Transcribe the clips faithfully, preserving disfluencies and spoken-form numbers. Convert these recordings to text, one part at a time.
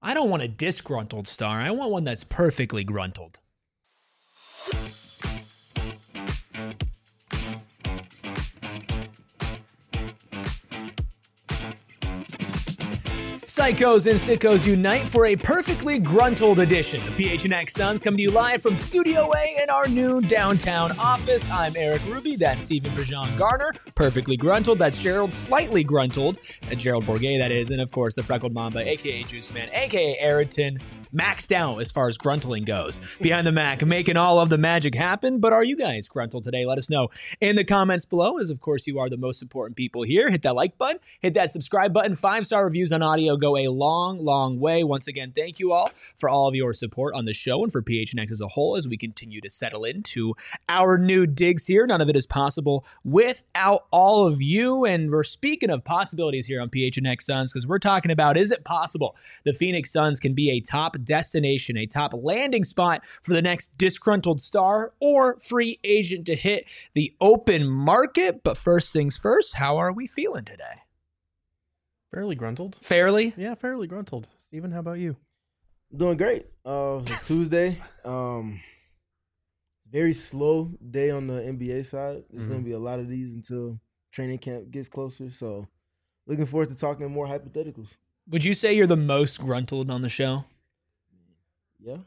I don't want a disgruntled star. I want one that's perfectly gruntled. Psychos and sickos unite for a perfectly gruntled edition. The P H N X Suns coming to you live from Studio A in our new downtown office. I'm Eric Ruby. That's Stephen Brajan Garner. Perfectly gruntled. That's Gerald Slightly Gruntled. Uh, Gerald Bourget, that is. And of course, the Freckled Mamba, a k a. Juice Man, a k a. Ayrton. Maxed out as far as gruntling goes. Behind the Mac, making all of the magic happen. But are you guys gruntled today? Let us know in the comments below, as of course you are the most important people here. Hit that like button, hit that subscribe button. Five-star reviews on audio go a long, long way. Once again, thank you all for all of your support on the show and for P H N X as a whole as we continue to settle into our new digs here. None of it is possible without all of you. And we're speaking of possibilities here on P H N X Suns because we're talking about, is it possible the Phoenix Suns can be a top destination, a top landing spot for the next disgruntled star or free agent to hit the open market? But first things first, how are we feeling today? Fairly gruntled. Fairly? Yeah, fairly gruntled. Steven, how about you? Doing great. Uh, it was a Tuesday. Um, very slow day on the N B A side. There's mm-hmm. going to be a lot of these until training camp gets closer. So looking forward to talking more hypotheticals. Would you say you're the most gruntled on the show? Yeah.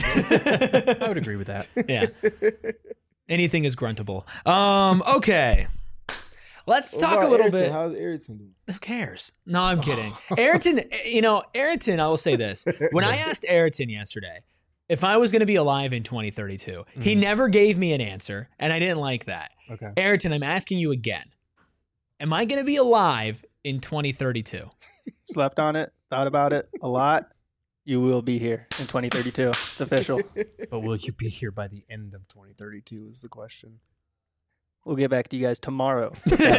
I, I would agree with that. Yeah. Anything is gruntable. Um, okay. Let's what talk a little Ayrton? bit. How's Ayrton doing? Who cares? No, I'm kidding. Ayrton, you know, Ayrton, I will say this. When I asked Ayrton yesterday if I was going to be alive in twenty thirty-two, mm-hmm. he never gave me an answer, and I didn't like that. Okay. Ayrton, I'm asking you again. Am I going to be alive in twenty thirty-two? Slept on it, thought about it a lot. You will be here in twenty thirty-two. It's official. But will you be here by the end of twenty thirty-two is the question. We'll get back to you guys tomorrow.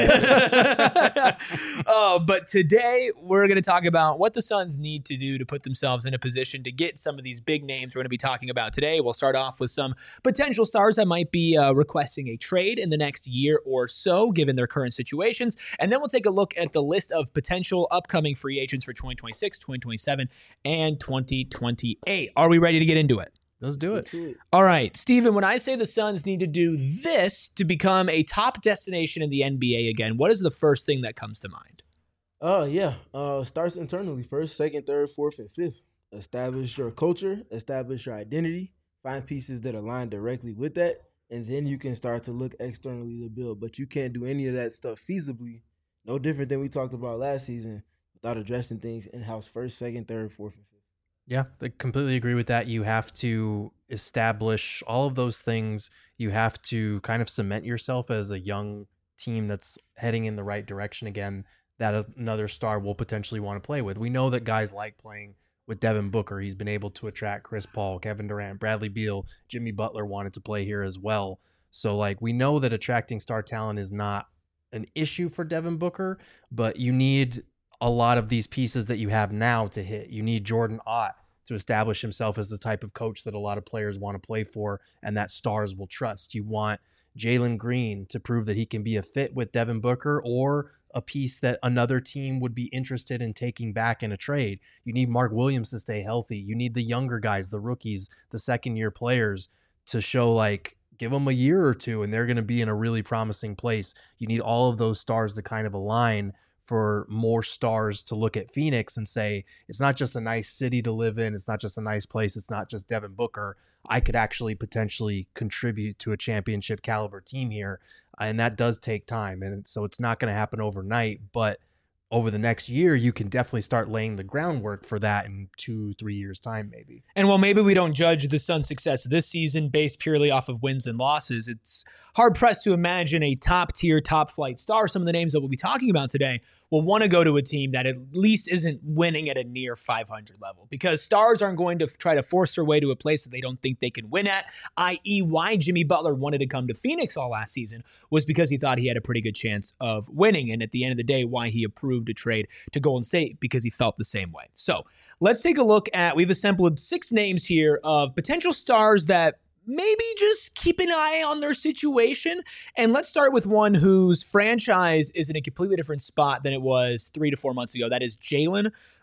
Oh, but today we're going to talk about what the Suns need to do to put themselves in a position to get some of these big names we're going to be talking about today. We'll start off with some potential stars that might be uh, requesting a trade in the next year or so, given their current situations. And then we'll take a look at the list of potential upcoming free agents for twenty twenty-six, twenty twenty-seven, and twenty twenty-eight. Are we ready to get into it? Let's do it. All right, Steven, when I say the Suns need to do this to become a top destination in the N B A again, what is the first thing that comes to mind? Uh, yeah. Uh, starts internally first, second, third, fourth, and fifth. Establish your culture, establish your identity, find pieces that align directly with that, and then you can start to look externally to build. But you can't do any of that stuff feasibly, no different than we talked about last season, without addressing things in-house first, second, third, fourth, and fifth. Yeah, I completely agree with that. You have to establish all of those things. You have to kind of cement yourself as a young team that's heading in the right direction again, that another star will potentially want to play with. We know that guys like playing with Devin Booker. He's been able to attract Chris Paul, Kevin Durant, Bradley Beal, Jimmy Butler wanted to play here as well. So like we know that attracting star talent is not an issue for Devin Booker, but you need a lot of these pieces that you have now to hit. You need Jordan Ott to establish himself as the type of coach that a lot of players want to play for and that stars will trust. You want Jalen Green to prove that he can be a fit with Devin Booker or a piece that another team would be interested in taking back in a trade. You need Mark Williams to stay healthy. You need the younger guys, the rookies, the second year players to show like, give them a year or two and they're going to be in a really promising place. You need all of those stars to kind of align for more stars to look at Phoenix and say, it's not just a nice city to live in. It's not just a nice place. It's not just Devin Booker. I could actually potentially contribute to a championship caliber team here. And that does take time. And so it's not going to happen overnight, but over the next year, you can definitely start laying the groundwork for that in two, three years' time, maybe. And while maybe we don't judge the Suns' success this season based purely off of wins and losses, it's hard-pressed to imagine a top-tier, top-flight star. Some of the names that we'll be talking about today will want to go to a team that at least isn't winning at a near five hundred level, because stars aren't going to try to force their way to a place that they don't think they can win at, that is why Jimmy Butler wanted to come to Phoenix all last season was because he thought he had a pretty good chance of winning. And at the end of the day, why he approved a trade to Golden State, because he felt the same way. So let's take a look at, we've assembled six names here of potential stars that maybe just keep an eye on their situation. And let's start with one whose franchise is in a completely different spot than it was three to four months ago. That is Jalen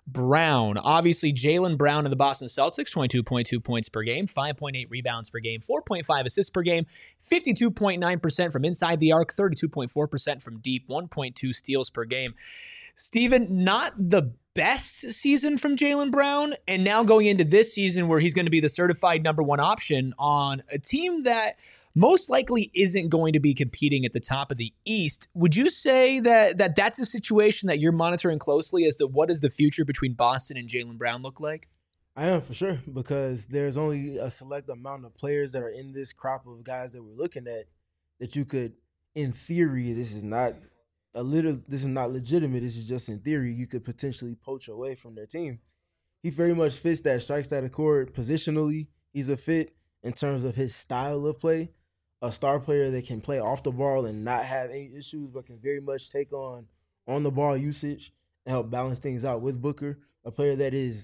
Brown. Obviously, Jaylen Brown of the Boston Celtics, twenty-two point two points per game, five point eight rebounds per game, four point five assists per game, fifty-two point nine percent from inside the arc, thirty-two point four percent from deep, one point two steals per game. Steven, not the best season from Jaylen Brown, and now going into this season where he's going to be the certified number one option on a team that most likely isn't going to be competing at the top of the East. Would you say that, that that's a situation that you're monitoring closely as to what does the future between Boston and Jaylen Brown look like? I am, for sure, because there's only a select amount of players that are in this crop of guys that we're looking at that you could, in theory, this is not a little, this is not legitimate. This is just in theory. You could potentially poach away from their team. He very much fits that strikes that accord positionally. He's a fit in terms of his style of play. A star player that can play off the ball and not have any issues, but can very much take on on the ball usage and help balance things out with Booker. A player that is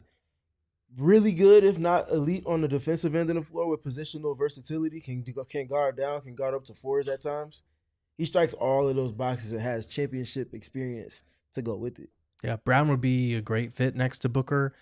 really good, if not elite, on the defensive end of the floor with positional versatility, can can guard down, can guard up to fours at times. He strikes all of those boxes and has championship experience to go with it. Yeah, Brown would be a great fit next to Booker.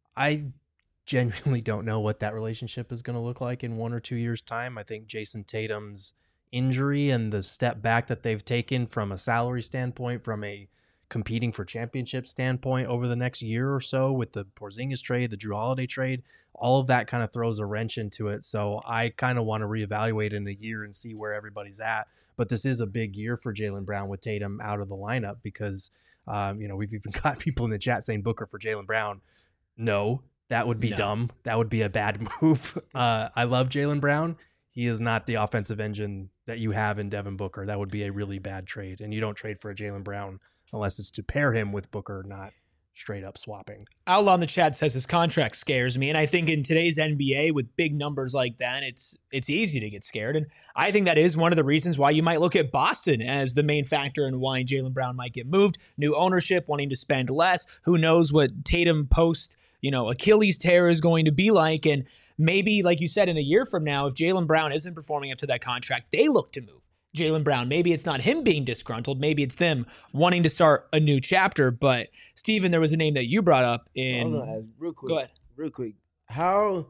I genuinely don't know what that relationship is going to look like in one or two years' time. I think Jason Tatum's injury and the step back that they've taken from a salary standpoint, from a competing for championship standpoint over the next year or so with the Porzingis trade, the Jrue Holiday trade, all of that kind of throws a wrench into it. So I kind of want to reevaluate in a year and see where everybody's at. But this is a big year for Jaylen Brown with Tatum out of the lineup because, um, you know, we've even got people in the chat saying Booker for Jaylen Brown. No. That would be no. dumb. That would be a bad move. Uh, I love Jaylen Brown. He is not the offensive engine that you have in Devin Booker. That would be a really bad trade. And you don't trade for a Jaylen Brown unless it's to pair him with Booker, not straight up swapping. Outlaw in the chat says his contract scares me. And I think in today's N B A with big numbers like that, it's it's easy to get scared. And I think that is one of the reasons why you might look at Boston as the main factor in why Jaylen Brown might get moved. New ownership, wanting to spend less. Who knows what Tatum post you know, Achilles tear is going to be like. And maybe, like you said, in a year from now, if Jaylen Brown isn't performing up to that contract, they look to move Jaylen Brown. Maybe it's not him being disgruntled. Maybe it's them wanting to start a new chapter. But, Steven, there was a name that you brought up in... Ask, real quick. Go ahead. Real quick. How...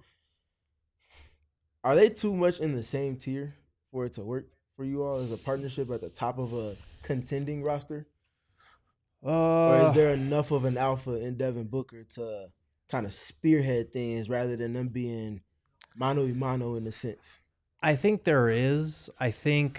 Are they too much in the same tier for it to work for you all as a partnership at the top of a contending roster? Uh, or is there enough of an alpha in Devin Booker to kind of spearhead things rather than them being mano a mano in a sense? I think there is. I think,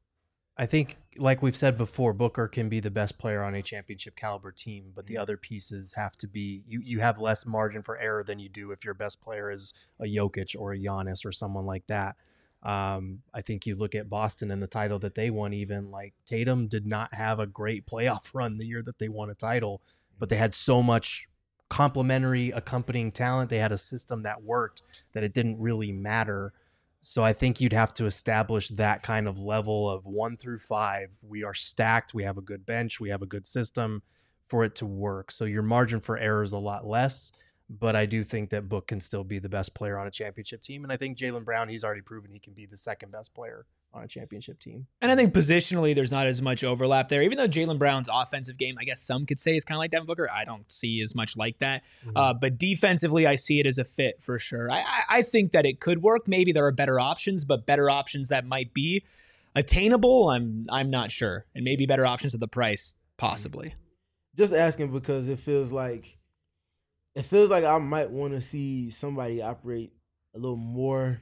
I think, like we've said before, Booker can be the best player on a championship caliber team, but the other pieces have to be, you, you have less margin for error than you do if your best player is a Jokic or a Giannis or someone like that. Um, I think you look at Boston and the title that they won, even like Tatum did not have a great playoff run the year that they won a title, but they had so much complementary accompanying talent. They had a system that worked that it didn't really matter. So I think you'd have to establish that kind of level of one through five. We are stacked. We have a good bench. We have a good system for it to work. So your margin for error is a lot less, but I do think that Book can still be the best player on a championship team. And I think Jaylen Brown, he's already proven he can be the second best player on a championship team. And I think positionally, there's not as much overlap there. Even though Jaylen Brown's offensive game, I guess some could say is kind of like Devin Booker. I don't see as much like that. Mm-hmm. Uh, but defensively, I see it as a fit for sure. I, I, I think that it could work. Maybe there are better options, but better options that might be attainable, I'm I'm not sure. And maybe better options at the price, possibly. Just asking because it feels like it feels like I might want to see somebody operate a little more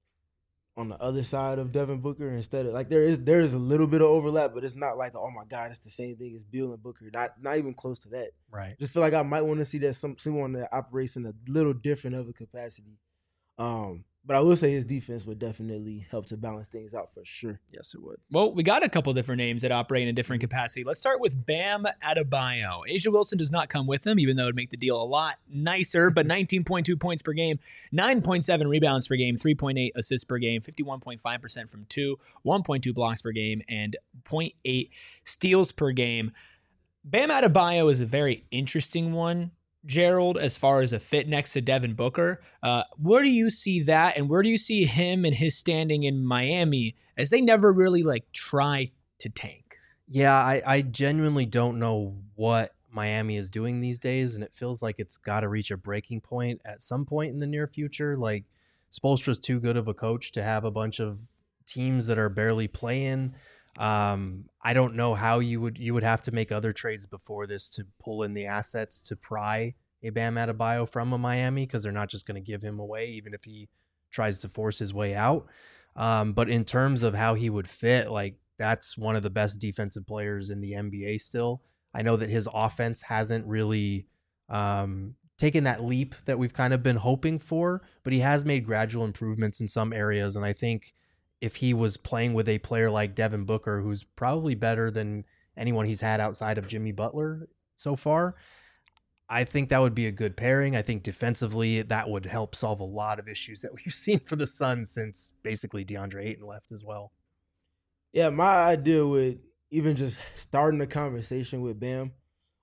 on the other side of Devin Booker instead of like there is there is a little bit of overlap, but it's not like, oh my God, it's the same thing as Beal and Booker. Not not even close to that. Right. Just feel like I might want to see that some someone that operates in a little different of a capacity. Um, but I will say his defense would definitely help to balance things out for sure. Yes, it would. Well, we got a couple different names that operate in a different capacity. Let's start with Bam Adebayo. A'ja Wilson does not come with him, even though it would make the deal a lot nicer, but nineteen point two points per game, nine point seven rebounds per game, three point eight assists per game, fifty-one point five percent from two, one point two blocks per game, and zero point eight steals per game. Bam Adebayo is a very interesting one, Gerald, as far as a fit next to Devin Booker. Uh, where do you see that, and where do you see him and his standing in Miami, as they never really like try to tank? Yeah, I, I genuinely don't know what Miami is doing these days, and it feels like it's got to reach a breaking point at some point in the near future. Like, Spoelstra's too good of a coach to have a bunch of teams that are barely playing. Um, I don't know how you would you would have to make other trades before this to pull in the assets to pry a Bam Adebayo from a Miami, because they're not just going to give him away, even if he tries to force his way out. Um, but in terms of how he would fit, like, that's one of the best defensive players in the N B A still. I know that his offense hasn't really um, taken that leap that we've kind of been hoping for, but he has made gradual improvements in some areas. And I think if he was playing with a player like Devin Booker, who's probably better than anyone he's had outside of Jimmy Butler so far, I think that would be a good pairing. I think defensively that would help solve a lot of issues that we've seen for the Suns since basically DeAndre Ayton left as well. Yeah, my idea with even just starting a conversation with Bam,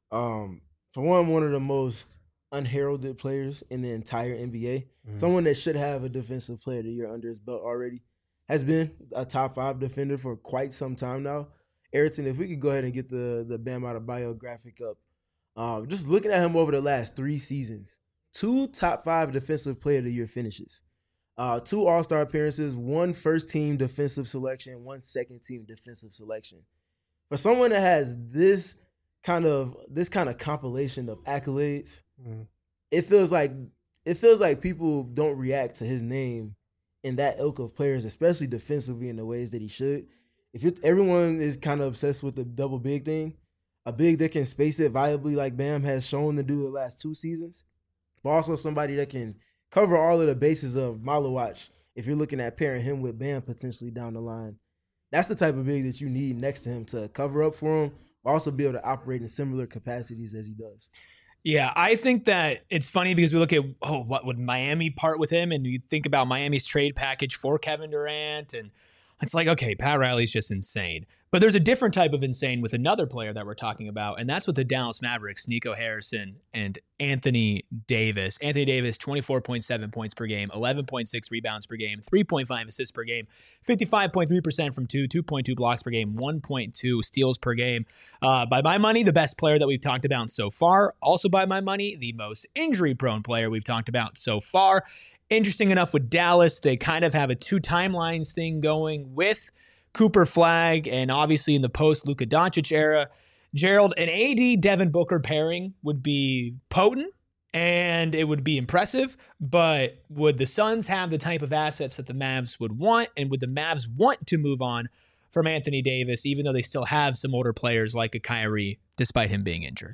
um, for one, one of the most unheralded players in the entire N B A, mm-hmm. someone that should have a defensive player of the year under his belt already, has been a top five defender for quite some time now. Ayrton, if we could go ahead and get the, the Bam Adebayo graphic up. Um, just looking at him over the last three seasons, two top five defensive player of the year finishes. Uh, two All-Star appearances, one first-team defensive selection, one second-team defensive selection. For someone that has this kind of this kind of compilation of accolades, mm. it feels like it feels like people don't react to his name in that ilk of players, especially defensively in the ways that he should. If it, everyone is kind of obsessed with the double big thing, a big that can space it viably like Bam has shown to do the last two seasons, but also somebody that can cover all of the bases of Malawatch if you're looking at pairing him with Bam potentially down the line. That's the type of big that you need next to him to cover up for him, but also be able to operate in similar capacities as he does. Yeah, I think that it's funny because we look at, oh, what would Miami part with him? And you think about Miami's trade package for Kevin Durant, and it's like, okay, Pat Riley's just insane. But there's a different type of insane with another player that we're talking about, and that's with the Dallas Mavericks, Nico Harrison and Anthony Davis. Anthony Davis, twenty-four point seven points per game, eleven point six rebounds per game, three point five assists per game, fifty-five point three percent from two, two point two blocks per game, one point two steals per game. Uh, by my money, the best player that we've talked about so far. Also by my money, the most injury-prone player we've talked about so far. Interesting enough with Dallas, they kind of have a two timelines thing going with Cooper Flag, and obviously in the post-Luka Doncic era, Gerald, an A D Devin Booker pairing would be potent, and it would be impressive, but would the Suns have the type of assets that the Mavs would want, and would the Mavs want to move on from Anthony Davis, even though they still have some older players like a Kyrie, despite him being injured?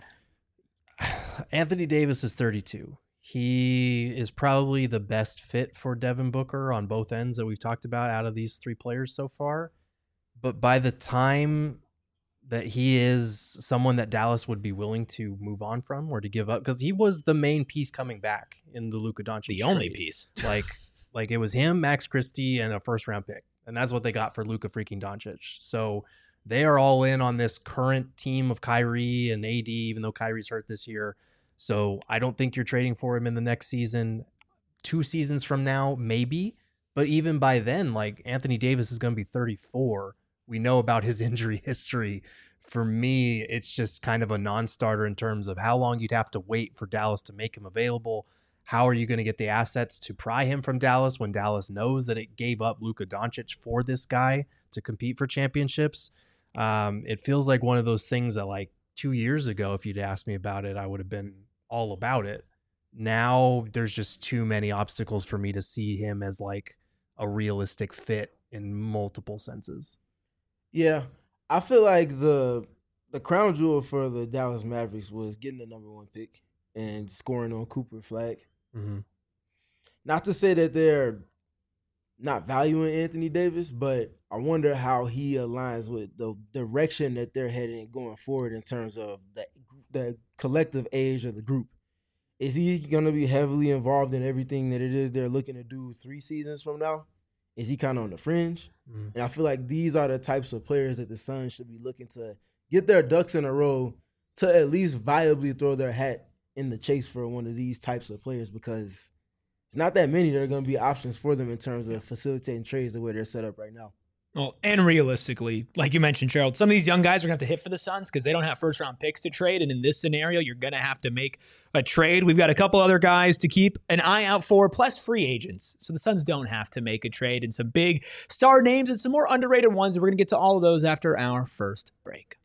Anthony Davis is thirty-two. He is probably the best fit for Devin Booker on both ends that we've talked about out of these three players so far. But by the time that he is someone that Dallas would be willing to move on from or to give up, because he was the main piece coming back in the Luka Doncic The trade. only piece. like, like it was him, Max Christie, and a first round pick. And that's what they got for Luka freaking Doncic. So they are all in on this current team of Kyrie and A D, even though Kyrie's hurt this year. So I don't think you're trading for him in the next season. Two seasons from now, maybe. But even by then, like, Anthony Davis is going to be thirty-four. We know about his injury history. For me, it's just kind of a non-starter in terms of how long you'd have to wait for Dallas to make him available. How are you going to get the assets to pry him from Dallas when Dallas knows that it gave up Luka Doncic for this guy to compete for championships? Um, it feels like one of those things that, like, two years ago, if you'd asked me about it, I would have been all about it. Now there's just too many obstacles for me to see him as like a realistic fit in multiple senses. Yeah, I feel like the the crown jewel for the Dallas Mavericks was getting the number one pick and scoring on Cooper Flag. Mm-hmm. Not to say that they're not valuing Anthony Davis, but I wonder how he aligns with the direction that they're heading going forward in terms of the the collective age of the group. Is he going to be heavily involved in everything that it is they're looking to do three seasons from now? Is he kind of on the fringe? Mm. And I feel like these are the types of players that the Suns should be looking to get their ducks in a row to at least viably throw their hat in the chase for one of these types of players, because it's not that many that are going to be options for them in terms of facilitating trades the way they're set up right now. Well, and realistically, like you mentioned, Gerald, some of these young guys are going to have to hit for the Suns because they don't have first-round picks to trade. And in this scenario, you're going to have to make a trade. We've got a couple other guys to keep an eye out for, plus free agents. So the Suns don't have to make a trade. And some big star names and some more underrated ones. And we're going to get to all of those after our first break.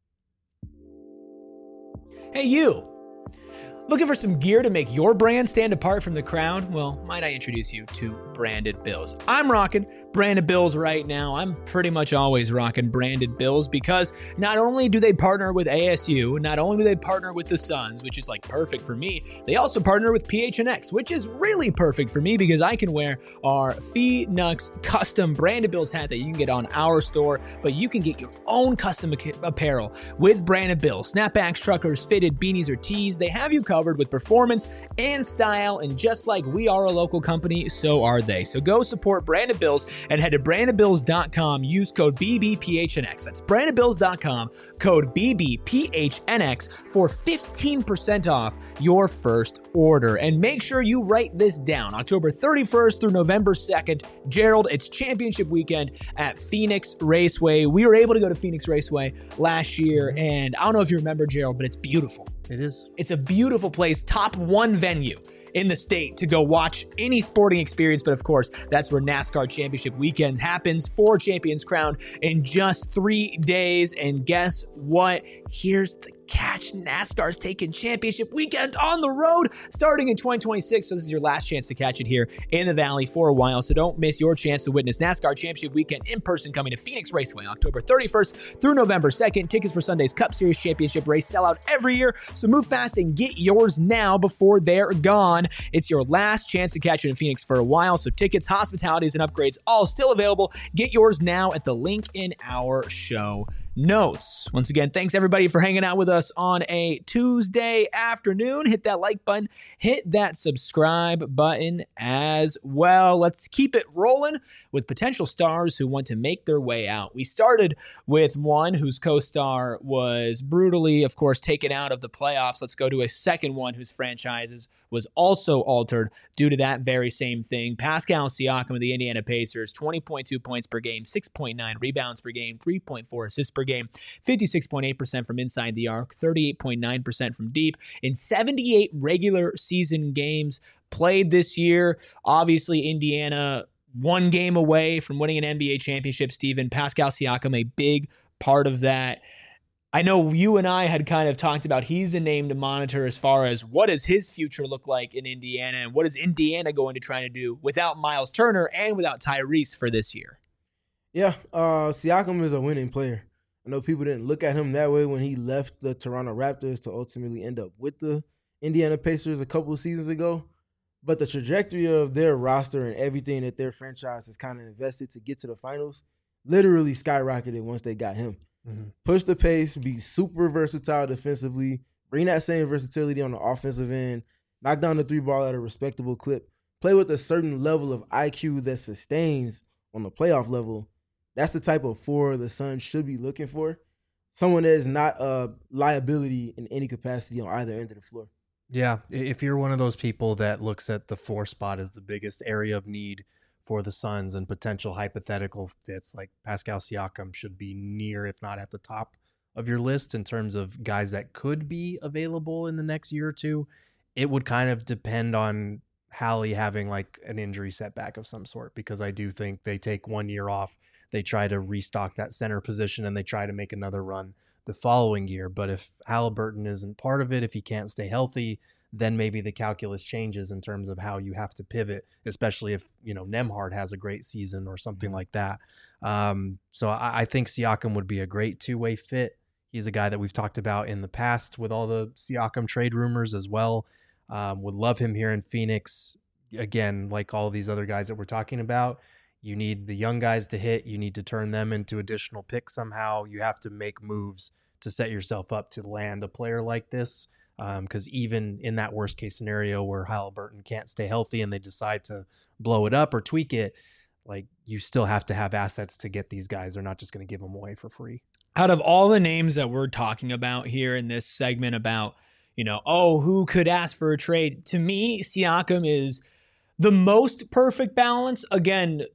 Hey, you. Looking for some gear to make your brand stand apart from the crowd? Well, might I introduce you to Branded Bills. I'm rocking Branded Bills right now. I'm pretty much always rocking Branded Bills because not only do they partner with A S U, not only do they partner with the Suns, which is like perfect for me, they also partner with P H N X, which is really perfect for me because I can wear our Phoenix custom Branded Bills hat that you can get on our store, but you can get your own custom apparel with Branded Bills. Snapbacks, truckers, fitted, beanies, or tees. They have you covered with performance and style, and just like we are a local company, so are they. So go support Branded Bills and head to branded bills dot com. Use code B B P H N X. That's branded bills dot com, code B B P H N X for fifteen percent off your first order. And make sure you write this down. October thirty-first through November second, Gerald, it's championship weekend at Phoenix Raceway. We were able to go to Phoenix Raceway last year, and I don't know if you remember, Gerald, but it's beautiful. It is. It's a beautiful place, top one venue in the state to go watch any sporting experience. But of course, that's where NASCAR Championship Weekend happens. Four champions crowned in just three days. And guess what? Here's the catch. NASCAR's taking Championship Weekend on the road starting in twenty twenty-six. So this is your last chance to catch it here in the Valley for a while. So don't miss your chance to witness NASCAR Championship Weekend in person coming to Phoenix Raceway October thirty-first through November second. Tickets for Sunday's Cup Series Championship race sell out every year. So move fast and get yours now before they're gone. It's your last chance to catch it in Phoenix for a while. So tickets, hospitalities, and upgrades all still available. Get yours now at the link in our show notes. Once again, thanks everybody for hanging out with us on a Tuesday afternoon. Hit that like button, hit that subscribe button as well. Let's keep it rolling with potential stars who want to make their way out. We started with one whose co-star was brutally, of course, taken out of the playoffs. Let's go to a second one whose franchises was also altered due to that very same thing. Pascal Siakam of the Indiana Pacers, twenty point two points per game, six point nine rebounds per game, three point four assists per game, fifty-six point eight percent from inside the arc, thirty-eight point nine percent from deep in seventy-eight regular season games played this year. Obviously, Indiana one game away from winning an N B A championship, Steven. Pascal Siakam, a big part of that. I know you and I had kind of talked about he's a name to monitor as far as what does his future look like in Indiana and what is Indiana going to try to do without Miles Turner and without Tyrese for this year. Yeah, uh, Siakam is a winning player. I know people didn't look at him that way when he left the Toronto Raptors to ultimately end up with the Indiana Pacers a couple of seasons ago. But the trajectory of their roster and everything that their franchise has kind of invested to get to the finals literally skyrocketed once they got him. Mm-hmm. Push the pace, be super versatile defensively, bring that same versatility on the offensive end, knock down the three ball at a respectable clip, play with a certain level of I Q that sustains on the playoff level. That's the type of four the Suns should be looking for. Someone that is not a liability in any capacity on either end of the floor. Yeah, if you're one of those people that looks at the four spot as the biggest area of need for the Suns and potential hypothetical fits, like Pascal Siakam should be near, if not at the top of your list in terms of guys that could be available in the next year or two. It would kind of depend on Hallie having like an injury setback of some sort, because I do think they take one year off, they try to restock that center position, and they try to make another run the following year. But if Halliburton isn't part of it, if he can't stay healthy, then maybe the calculus changes in terms of how you have to pivot, especially if, you know, Nembhard has a great season or something like that. Um, so I, I think Siakam would be a great two-way fit. He's a guy that we've talked about in the past with all the Siakam trade rumors as well. Um, would love him here in Phoenix. Again, like all these other guys that we're talking about, you need the young guys to hit. You need to turn them into additional picks somehow. You have to make moves to set yourself up to land a player like this. Because um, even in that worst case scenario where Halliburton can't stay healthy and they decide to blow it up or tweak it, like you still have to have assets to get these guys. They're not just going to give them away for free. Out of all the names that we're talking about here in this segment about, you know, oh, who could ask for a trade? To me, Siakam is the most perfect balance. Again,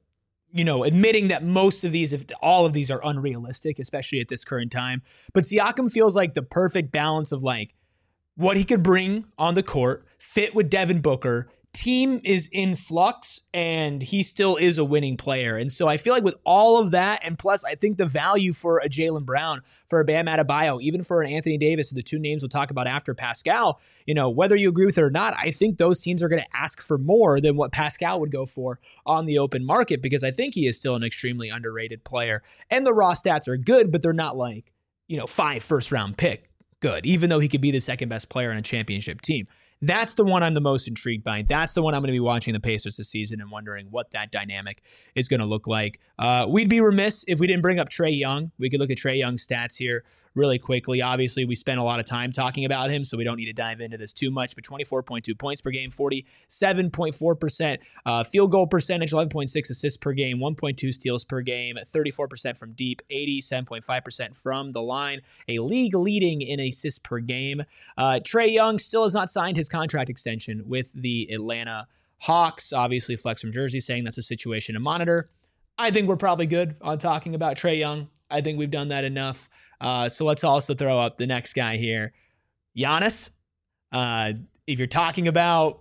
you know, admitting that most of these, if all of these are unrealistic, especially at this current time. But Siakam feels like the perfect balance of like what he could bring on the court, fit with Devin Booker. Team is in flux and he still is a winning player. And so I feel like with all of that, and plus I think the value for a Jaylen Brown, for a Bam Adebayo, even for an Anthony Davis, the two names we'll talk about after Pascal, you know, whether you agree with it or not, I think those teams are going to ask for more than what Pascal would go for on the open market, because I think he is still an extremely underrated player. And the raw stats are good, but they're not like, you know, five first round pick good, even though he could be the second best player on a championship team. That's the one I'm the most intrigued by. That's the one I'm going to be watching the Pacers this season and wondering what that dynamic is going to look like. Uh, we'd be remiss if we didn't bring up Trae Young. We could look at Trae Young's stats here really quickly. Obviously, we spent a lot of time talking about him, so we don't need to dive into this too much, but twenty-four point two points per game, forty-seven point four percent uh, field goal percentage, eleven point six assists per game, one point two steals per game, thirty-four percent from deep, eighty-seven point five percent from the line, a league leading in assists per game. Uh, Trae Young still has not signed his contract extension with the Atlanta Hawks. Obviously, Flex from Jersey saying that's a situation to monitor. I think we're probably good on talking about Trae Young. I think we've done that enough. Uh, so let's also throw up the next guy here, Giannis. Uh, if you're talking about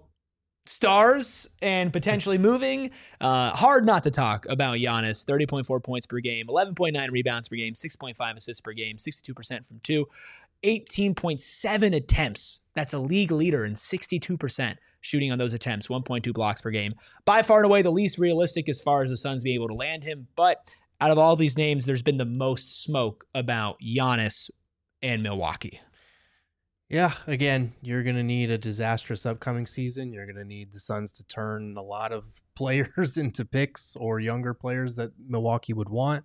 stars and potentially moving, uh, hard not to talk about Giannis. thirty point four points per game, eleven point nine rebounds per game, six point five assists per game, sixty-two percent from two, eighteen point seven attempts. That's a league leader in sixty-two percent shooting on those attempts, one point two blocks per game. By far and away the least realistic as far as the Suns being able to land him, but out of all these names, there's been the most smoke about Giannis and Milwaukee. Yeah, again, you're going to need a disastrous upcoming season. You're going to need the Suns to turn a lot of players into picks or younger players that Milwaukee would want.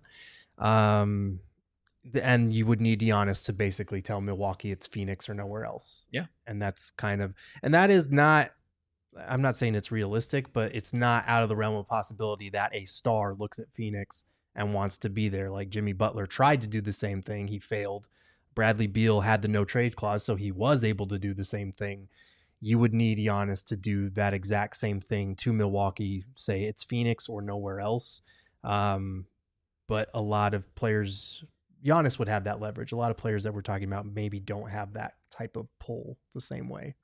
Um, and you would need Giannis to basically tell Milwaukee it's Phoenix or nowhere else. Yeah. And that's kind of, and that is not, I'm not saying it's realistic, but it's not out of the realm of possibility that a star looks at Phoenix and wants to be there. Like Jimmy Butler tried to do the same thing. He failed. Bradley Beal had the no trade clause, so he was able to do the same thing. You would need Giannis to do that exact same thing to Milwaukee, say it's Phoenix or nowhere else. Um, but a lot of players, Giannis would have that leverage. A lot of players that we're talking about maybe don't have that type of pull the same way.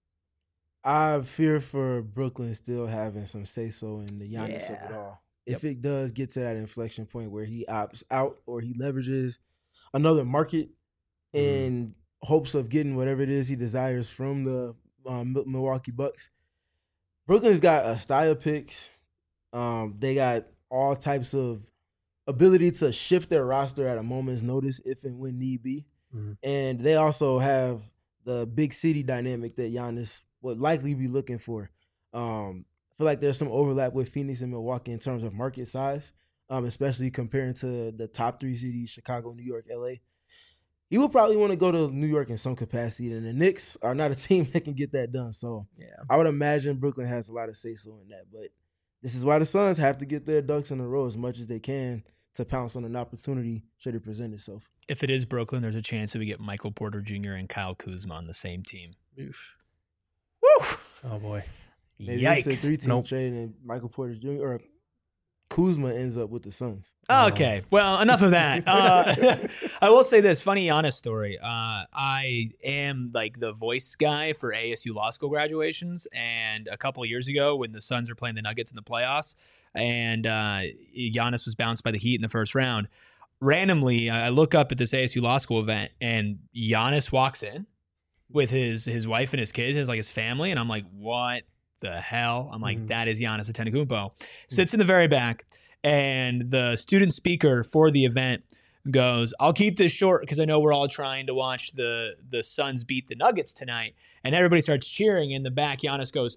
I fear for Brooklyn still having some say-so in the Giannis Yeah. of it all. Yep. If it does get to that inflection point where he opts out or he leverages another market in hopes of getting whatever it is he desires from the um, Milwaukee Bucks, Brooklyn's got a style picks. Um, they got all types of ability to shift their roster at a moment's notice if and when need be. Mm-hmm. And they also have the big city dynamic that Giannis would likely be looking for. Um, I feel like there's some overlap with Phoenix and Milwaukee in terms of market size, um, especially comparing to the top three cities, Chicago, New York, L A. He would probably want to go to New York in some capacity, and the Knicks are not a team that can get that done. So Yeah. I would imagine Brooklyn has a lot of say-so in that. But this is why the Suns have to get their ducks in a row as much as they can to pounce on an opportunity should it present itself. If it is Brooklyn, there's a chance that we get Michael Porter Junior and Kyle Kuzma on the same team. Oof. Woo! Oh boy. Maybe it's a Yikes. three-team Nope. trade and Michael Porter Junior or Kuzma ends up with the Suns. Okay, well, enough of that. Uh, I will say this funny, honest story. Uh, I am like the voice guy for A S U law school graduations, and a couple of years ago, when the Suns were playing the Nuggets in the playoffs, and uh, Giannis was bounced by the Heat in the first round. Randomly, I look up at this A S U law school event, and Giannis walks in with his his wife and his kids, and like his family, and I'm like, what the hell? I'm like, Mhm. that is Giannis Antetokounmpo. Sits in the very back. And the student speaker for the event goes, I'll keep this short because I know we're all trying to watch the, the Suns beat the Nuggets tonight. And everybody starts cheering. In the back, Giannis goes,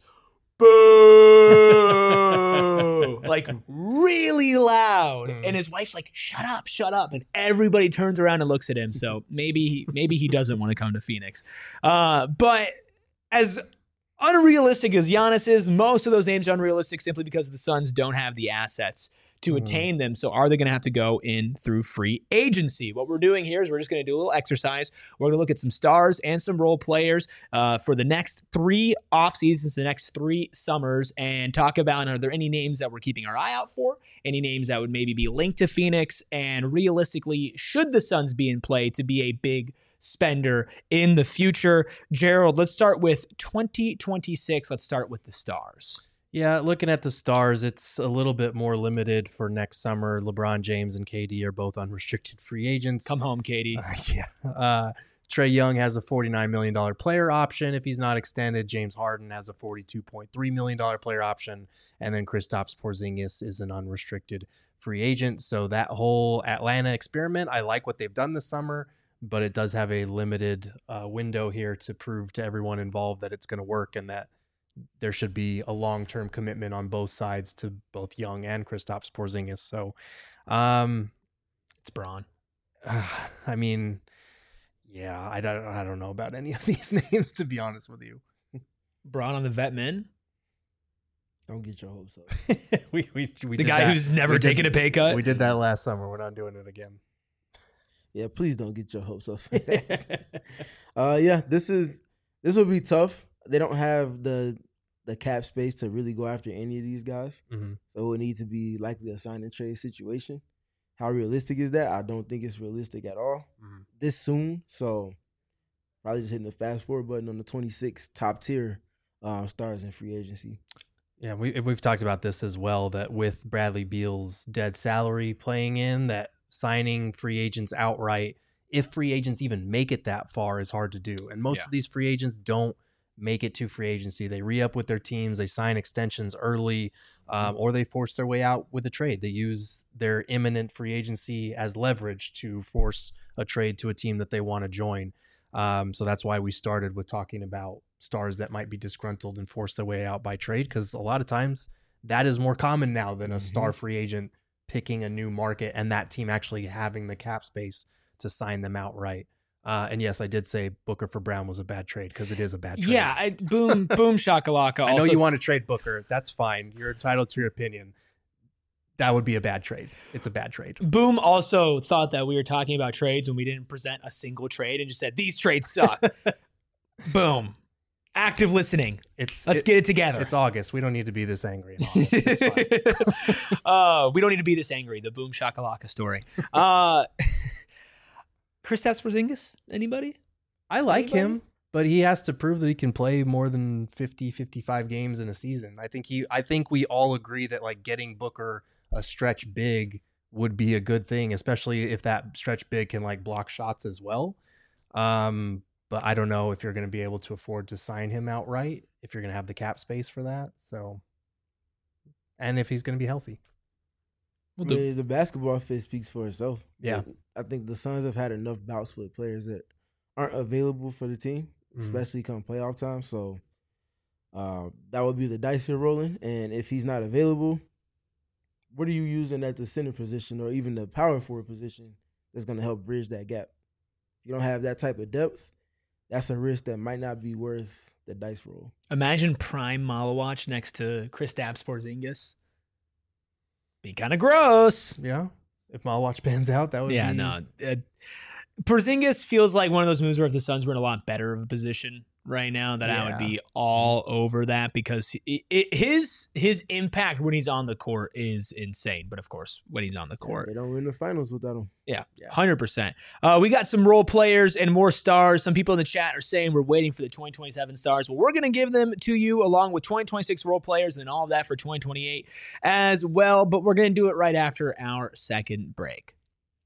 boo! Like really loud. Mm. And his wife's like, shut up, shut up. And everybody turns around and looks at him. So maybe, maybe he doesn't want to come to Phoenix. Uh, but as unrealistic as Giannis is, most of those names are unrealistic simply because the Suns don't have the assets to mm. attain them. So are they going to have to go in through free agency? What we're doing here is we're just going to do a little exercise. We're going to look at some stars and some role players uh, for the next three off seasons, the next three summers, and talk about, are there any names that we're keeping our eye out for? Any names that would maybe be linked to Phoenix? And realistically, should the Suns be in play to be a big spender in the future? Gerald, let's start with twenty twenty-six. Let's start with the stars. Yeah, looking at the stars, it's a little bit more limited for next summer. LeBron James and K D are both unrestricted free agents. Come home, K D. Uh, yeah. Uh, Trae Young has a forty-nine million dollars player option if he's not extended. James Harden has a forty-two point three million dollars player option. And then Kristaps Porzingis is an unrestricted free agent. So that whole Atlanta experiment, I like what they've done this summer, but it does have a limited uh, window here to prove to everyone involved that it's going to work and that there should be a long-term commitment on both sides to both Young and Kristaps Porzingis. So um, it's Bron. Uh, I mean, yeah, I don't, I don't know about any of these names, to be honest with you. Bron on the vet men. Don't get your hopes up. we, we, we the did guy that. who's never we taken did, a pay cut. We did that last summer. We're not doing it again. Yeah, please don't get your hopes up. uh, yeah, this is this will be tough. They don't have the the cap space to really go after any of these guys. Mm-hmm. So it would need to be likely a sign and trade situation. How realistic is that? I don't think it's realistic at all mm-hmm. this soon. So probably just hitting the fast forward button on the twenty-six top tier uh, stars in free agency. Yeah, we, we've talked about this as well, that with Bradley Beal's dead salary playing in, that signing free agents outright, if free agents even make it that far, is hard to do. And most yeah. of these free agents don't make it to free agency. They re-up with their teams, they sign extensions early, um, or they force their way out with a trade. They use their imminent free agency as leverage to force a trade to a team that they want to join. Um, so that's why we started with talking about stars that might be disgruntled and force their way out by trade, because a lot of times that is more common now than a mm-hmm. star free agent picking a new market and that team actually having the cap space to sign them outright. Uh, and yes, I did say Booker for Brown was a bad trade, because it is a bad trade. Yeah, I, boom, boom, shakalaka. I know also, you want to trade Booker. That's fine. You're entitled to your opinion. That would be a bad trade. It's a bad trade. Boom also thought that we were talking about trades when we didn't present a single trade and just said, these trades suck. Boom. Active listening. It's Let's it, get it together. It's August. We don't need to be this angry in August. It's fine. uh, we don't need to be this angry. The boom shakalaka story. Uh, Kristaps Porzingis, anybody? I like Anybody? him, but he has to prove that he can play more than fifty, fifty-five games in a season. I think he I think we all agree that like getting Booker a stretch big would be a good thing, especially if that stretch big can like block shots as well. Um, but I don't know if you're going to be able to afford to sign him outright, if you're going to have the cap space for that. So, and if he's going to be healthy. Well, the, the basketball fit speaks for itself. Yeah. I think the Suns have had enough bouts with players that aren't available for the team, mm-hmm. especially come playoff time. So uh, that would be the dice here rolling. And if he's not available, what are you using at the center position or even the power forward position that's going to help bridge that gap? If you don't have that type of depth, that's a risk that might not be worth the dice roll. Imagine prime Malawach next to Kristaps Porzingis. Be kind of gross. Yeah. If Malawach pans out, that would yeah, be... no. Uh, Porzingis feels like one of those moves where if the Suns were in a lot better of a position right now, that I would Yeah. be all over that, because it, it, his his impact when he's on the court is insane. But of course, when he's on the court, They don't win the finals without him. yeah, Yeah. one hundred percent. Uh, we got some role players and more stars. Some people in the chat are saying we're waiting for the twenty twenty-seven stars. Well, we're going to give them to you along with twenty twenty-six role players and then all of that for twenty twenty-eight as well. But we're going to do it right after our second break.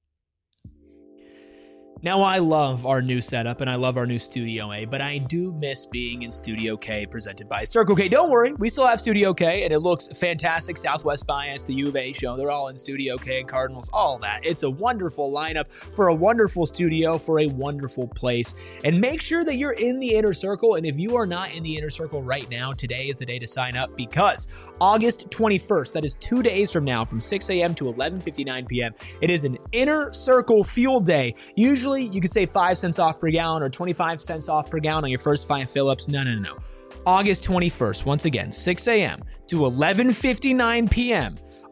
Now, I love our new setup and I love our new Studio A, but I do miss being in Studio K presented by Circle K. Don't worry, we still have Studio K and it looks fantastic. Southwest Bias, the U of A show, they're all in Studio K, Cardinals, all that. It's a wonderful lineup for a wonderful studio, for a wonderful place. And make sure that you're in the inner circle. And if you are not in the inner circle right now, today is the day to sign up, because August twenty-first, that is two days from now, from six a.m. to eleven fifty-nine p.m., it is an inner circle fuel day. Usually you could save five cents off per gallon or twenty-five cents off per gallon on your first five fill-ups. No, no, no, no. August twenty-first, once again, six a.m. to eleven fifty-nine p.m.,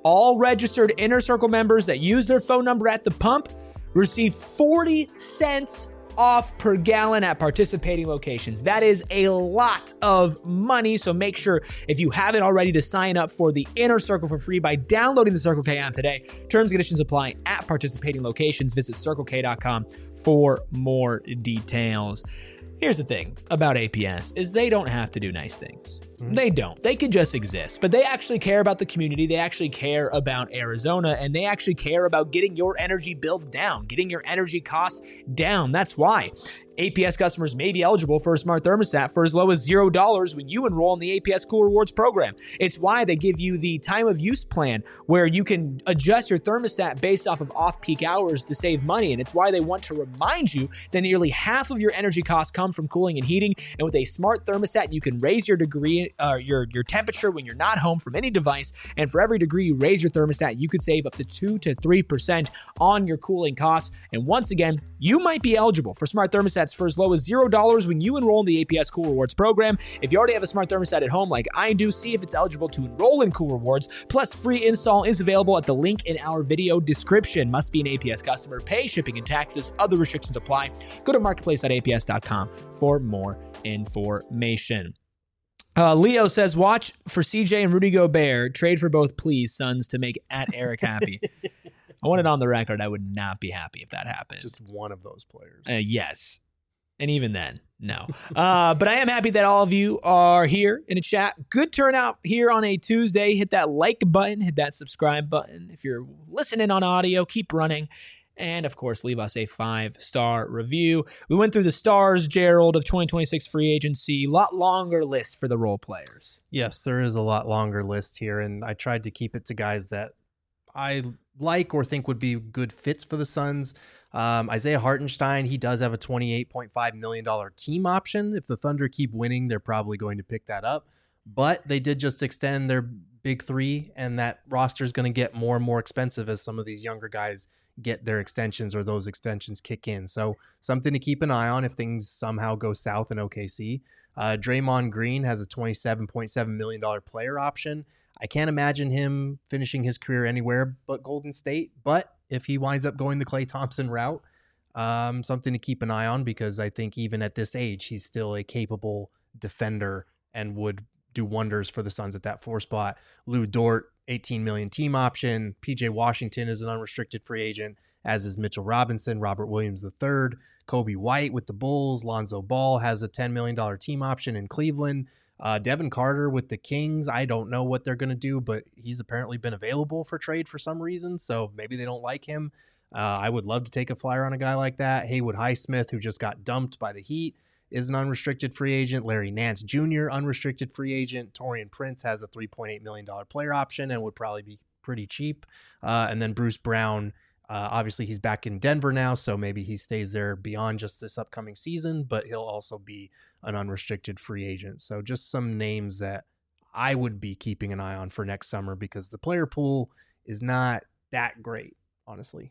All registered Inner Circle members that use their phone number at the pump receive forty cents off per gallon at participating locations. That is a lot of money. So make sure, if you haven't already, to sign up for the Inner Circle for free by downloading the Circle K app today. Terms and conditions apply at participating locations. Visit circle k dot com for more details. Here's the thing about A P S is they don't have to do nice things. Mm-hmm. They don't. They could just exist. But they actually care about the community. They actually care about Arizona, and they actually care about getting your energy bill down, getting your energy costs down. That's why A P S customers may be eligible for a smart thermostat for as low as zero dollars when you enroll in the A P S Cool Rewards program. It's why they give you the time of use plan where you can adjust your thermostat based off of off-peak hours to save money. And it's why they want to remind you that nearly half of your energy costs come from cooling and heating. And with a smart thermostat, you can raise your degree, uh, your, your temperature when you're not home from any device. And for every degree you raise your thermostat, you could save up to two to three percent on your cooling costs. And once again, you might be eligible for smart thermostats for as low as zero dollars when you enroll in the A P S Cool Rewards program. If you already have a smart thermostat at home like I do, see if it's eligible to enroll in Cool Rewards. Plus, free install is available at the link in our video description. Must be an A P S customer. Pay shipping and taxes. Other restrictions apply. Go to marketplace dot a p s dot com for more information. Uh, Leo says, watch for C J and Rudy Gobert. Trade for both, please, Suns, to make at Eric happy. I want it on the record. I would not be happy if that happened. Just one of those players. Uh, yes. And even then, no. Uh, but I am happy that all of you are here in a chat. Good turnout here on a Tuesday. Hit that like button. Hit that subscribe button. If you're listening on audio, keep running. And, of course, leave us a five-star review. We went through the stars, Gerald, of twenty twenty-six free agency. A lot longer list for the role players. Yes, there is a lot longer list here, and I tried to keep it to guys that I like or think would be good fits for the Suns. Um, Isaiah Hartenstein, he does have a twenty-eight point five million dollars team option. If the Thunder keep winning, they're probably going to pick that up. But they did just extend their big three, and that roster is going to get more and more expensive as some of these younger guys get their extensions or those extensions kick in. So something to keep an eye on if things somehow go south in O K C. Uh, Draymond Green has a twenty-seven point seven million dollars player option. I can't imagine him finishing his career anywhere but Golden State. But if he winds up going the Klay Thompson route, um, something to keep an eye on, because I think even at this age, he's still a capable defender and would do wonders for the Suns at that four spot. Lou Dort, eighteen million dollars team option. P J Washington is an unrestricted free agent, as is Mitchell Robinson, Robert Williams the third. Kobe White with the Bulls. Lonzo Ball has a ten million dollars team option in Cleveland. Uh, Devin Carter with the Kings. I don't know what they're going to do, but he's apparently been available for trade for some reason, so maybe they don't like him. Uh, I would love to take a flyer on a guy like that. Haywood Highsmith, who just got dumped by the Heat, is an unrestricted free agent. Larry Nance Junior, unrestricted free agent. Taurean Prince has a three point eight million dollars player option and would probably be pretty cheap. Uh, and then Bruce Brown, uh, obviously he's back in Denver now, so maybe he stays there beyond just this upcoming season, but he'll also be an unrestricted free agent. So just some names that I would be keeping an eye on for next summer, because the player pool is not that great, honestly.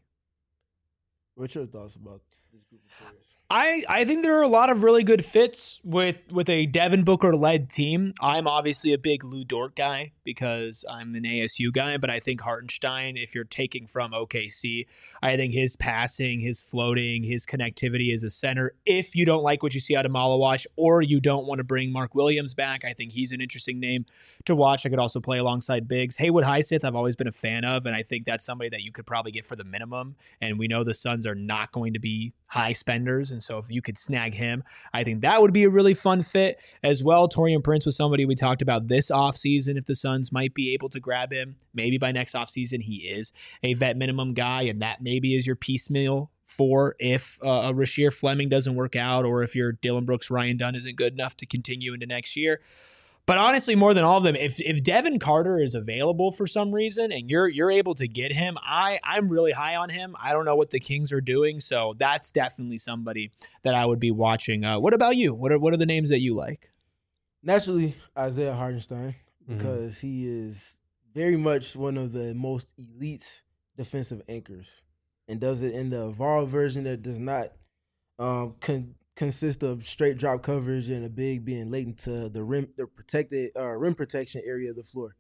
What's your thoughts about this group of players? I, I think there are a lot of really good fits with, with a Devin Booker-led team. I'm obviously a big Lou Dort guy because I'm an A S U guy, but I think Hartenstein, if you're taking from O K C, I think his passing, his floating, his connectivity as a center, if you don't like what you see out of Malawash or you don't want to bring Mark Williams back, I think he's an interesting name to watch. I could also play alongside bigs. Haywood Highsmith, I've always been a fan of, and I think that's somebody that you could probably get for the minimum, and we know the Suns are not going to be high spenders, and so if you could snag him, I think that would be a really fun fit as well. Taurean Prince was somebody we talked about this offseason, if the Suns might be able to grab him. Maybe by next offseason he is a vet minimum guy, and that maybe is your piecemeal for if uh, a Rasheer Fleming doesn't work out, or if your Dylan Brooks, Ryan Dunn isn't good enough to continue into next year. But honestly, more than all of them, if if Devin Carter is available for some reason and you're you're able to get him, I, I'm really high on him. I don't know what the Kings are doing, so that's definitely somebody that I would be watching. Uh, what about you? What are what are the names that you like? Naturally, Isaiah Hartenstein, because mm-hmm. he is very much one of the most elite defensive anchors, and does it in the evolved version that does not um, con- consist of straight drop coverage and a big being latent to the rim, the protected uh, rim protection area of the floor.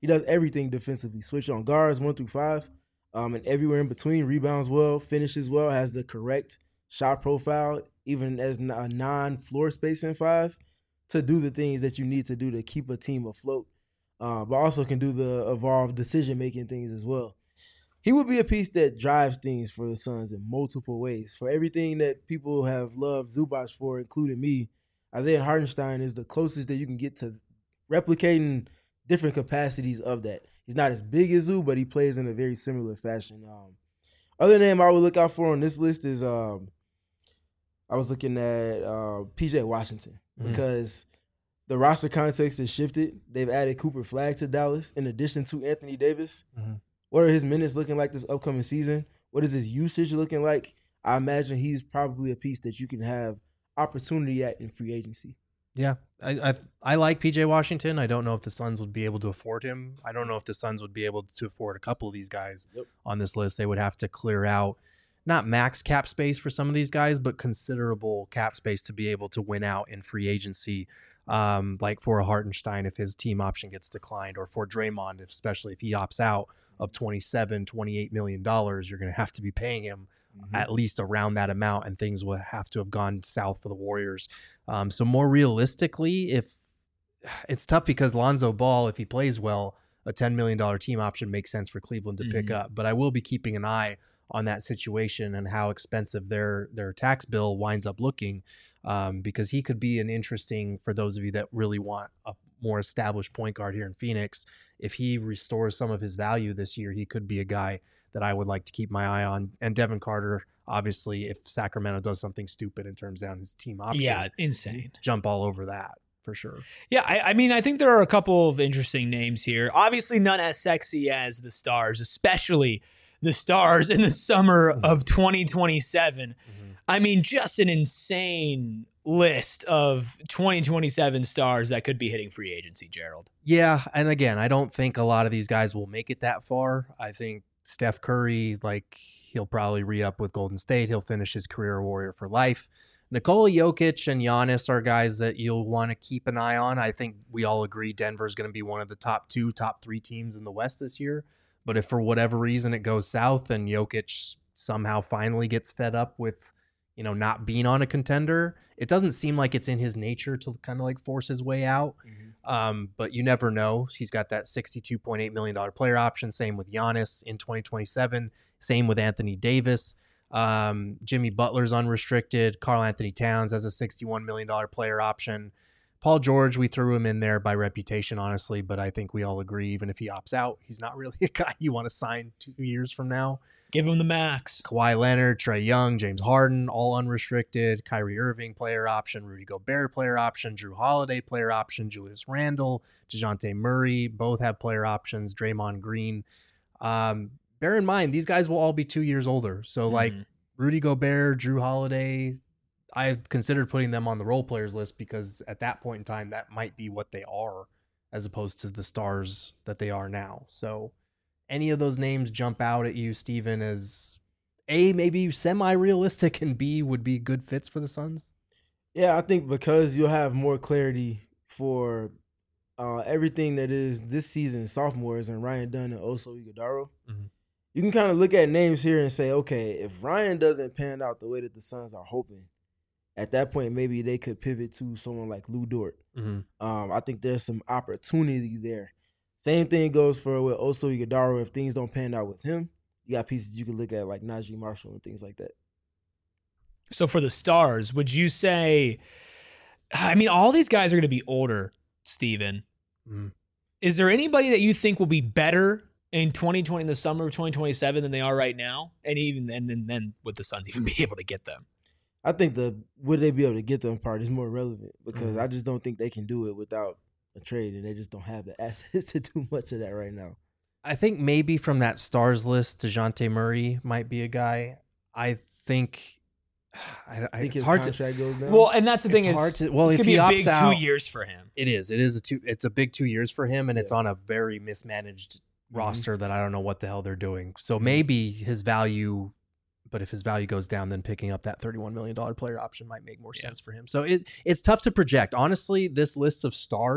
He does everything defensively. Switch on guards one through five, um, and everywhere in between. Rebounds well, finishes well, has the correct shot profile, even as a non-floor spacing five, to do the things that you need to do to keep a team afloat. Uh, but also can do the evolved decision-making things as well. He would be a piece that drives things for the Suns in multiple ways. For everything that people have loved Zubac for, including me, Isaiah Hartenstein is the closest that you can get to replicating different capacities of that. He's not as big as Zoo, but he plays in a very similar fashion. Um, other name I would look out for on this list is um, I was looking at uh, P J Washington Mm-hmm. because the roster context has shifted. They've added Cooper Flagg to Dallas in addition to Anthony Davis. Mm-hmm. What are his minutes looking like this upcoming season? What is his usage looking like? I imagine he's probably a piece that you can have opportunity at in free agency. Yeah, I, I I like P J Washington. I don't know if the Suns would be able to afford him. I don't know if the Suns would be able to afford a couple of these guys Yep. on this list. They would have to clear out not max cap space for some of these guys, but considerable cap space to be able to win out in free agency. Um, like for a Hartenstein if his team option gets declined, or for Draymond, if, especially if he opts out of twenty-seven, twenty-eight million dollars, you're going to have to be paying him Mm-hmm. at least around that amount, and things will have to have gone south for the Warriors. Um, so more realistically, if it's tough because Lonzo Ball, if he plays well, a ten million dollars team option makes sense for Cleveland to mm-hmm. pick up. But I will be keeping an eye on that situation and how expensive their their tax bill winds up looking, um, because he could be an interesting, for those of you that really want a more established point guard here in Phoenix. If he restores some of his value this year, he could be a guy that I would like to keep my eye on. And Devin Carter, obviously, if Sacramento does something stupid and turns down his team option, yeah, insane, jump all over that for sure. Yeah, I, I mean, I think there are a couple of interesting names here. Obviously, none as sexy as the Stars, especially the Stars in the summer mm-hmm. of twenty twenty-seven. Mm-hmm. I mean, just an insane list of twenty twenty-seven stars that could be hitting free agency, Gerald. Yeah, and again, I don't think a lot of these guys will make it that far. I think Steph Curry, like, he'll probably re-up with Golden State. He'll finish his career a Warrior for life. Nikola Jokic and Giannis are guys that you'll want to keep an eye on. I think we all agree Denver's going to be one of the top two, top three teams in the West this year. But if for whatever reason it goes south and Jokic somehow finally gets fed up with, you know, not being on a contender, it doesn't seem like it's in his nature to kind of like force his way out. Mm-hmm. Um, but you never know. He's got that sixty-two point eight million dollars player option. Same with Giannis in twenty twenty-seven. Same with Anthony Davis. Um, Jimmy Butler's unrestricted. Karl Anthony Towns has a sixty-one million dollars player option. Paul George, we threw him in there by reputation, honestly, but I think we all agree, even if he opts out, he's not really a guy you want to sign two years from now. Give him the max. Kawhi Leonard, Trae Young, James Harden, all unrestricted. Kyrie Irving, player option. Rudy Gobert, player option. Drew Holiday, player option. Julius Randle, DeJounte Murray, both have player options. Draymond Green. Um, bear in mind, these guys will all be two years older. So, like, mm-hmm. Rudy Gobert, Drew Holiday, I've considered putting them on the role players list because at that point in time, that might be what they are as opposed to the stars that they are now. So any of those names jump out at you, Steven, as A, maybe semi-realistic, and B, would be good fits for the Suns? Yeah, I think because you'll have more clarity for uh, everything that is this season's sophomores and Ryan Dunn and Oso Ighodaro. Mm-hmm. You can kind of look at names here and say, okay, if Ryan doesn't pan out the way that the Suns are hoping, at that point, maybe they could pivot to someone like Lou Dort. Mm-hmm. Um, I think there's some opportunity there. Same thing goes for with Oso Ighodaro. If things don't pan out with him, you got pieces you can look at like Najee Marshall and things like that. So for the Stars, would you say, I mean, all these guys are going to be older, Steven. Mm-hmm. Is there anybody that you think will be better in twenty twenty, in the summer of twenty twenty-seven than they are right now? And even and then, then would the Suns even be able to get them? I think the would they be able to get them part is more relevant because mm-hmm. I just don't think they can do it without a trade, and they just don't have the assets to do much of that right now. I think maybe from that Stars list, DeJounte Murray might be a guy. I think, I, I think it's his hard contract to goes down. Well, and that's the it's thing is, hard to, well, it's if gonna he be a opts big out, two years for him. It is. It is a two. It's a big two years for him, and yeah. it's on a very mismanaged mm-hmm. roster that I don't know what the hell they're doing. So maybe his value. But if his value goes down, then picking up that thirty-one million dollars player option might make more yeah. sense for him. So it, it's tough to project. Honestly, this list of stars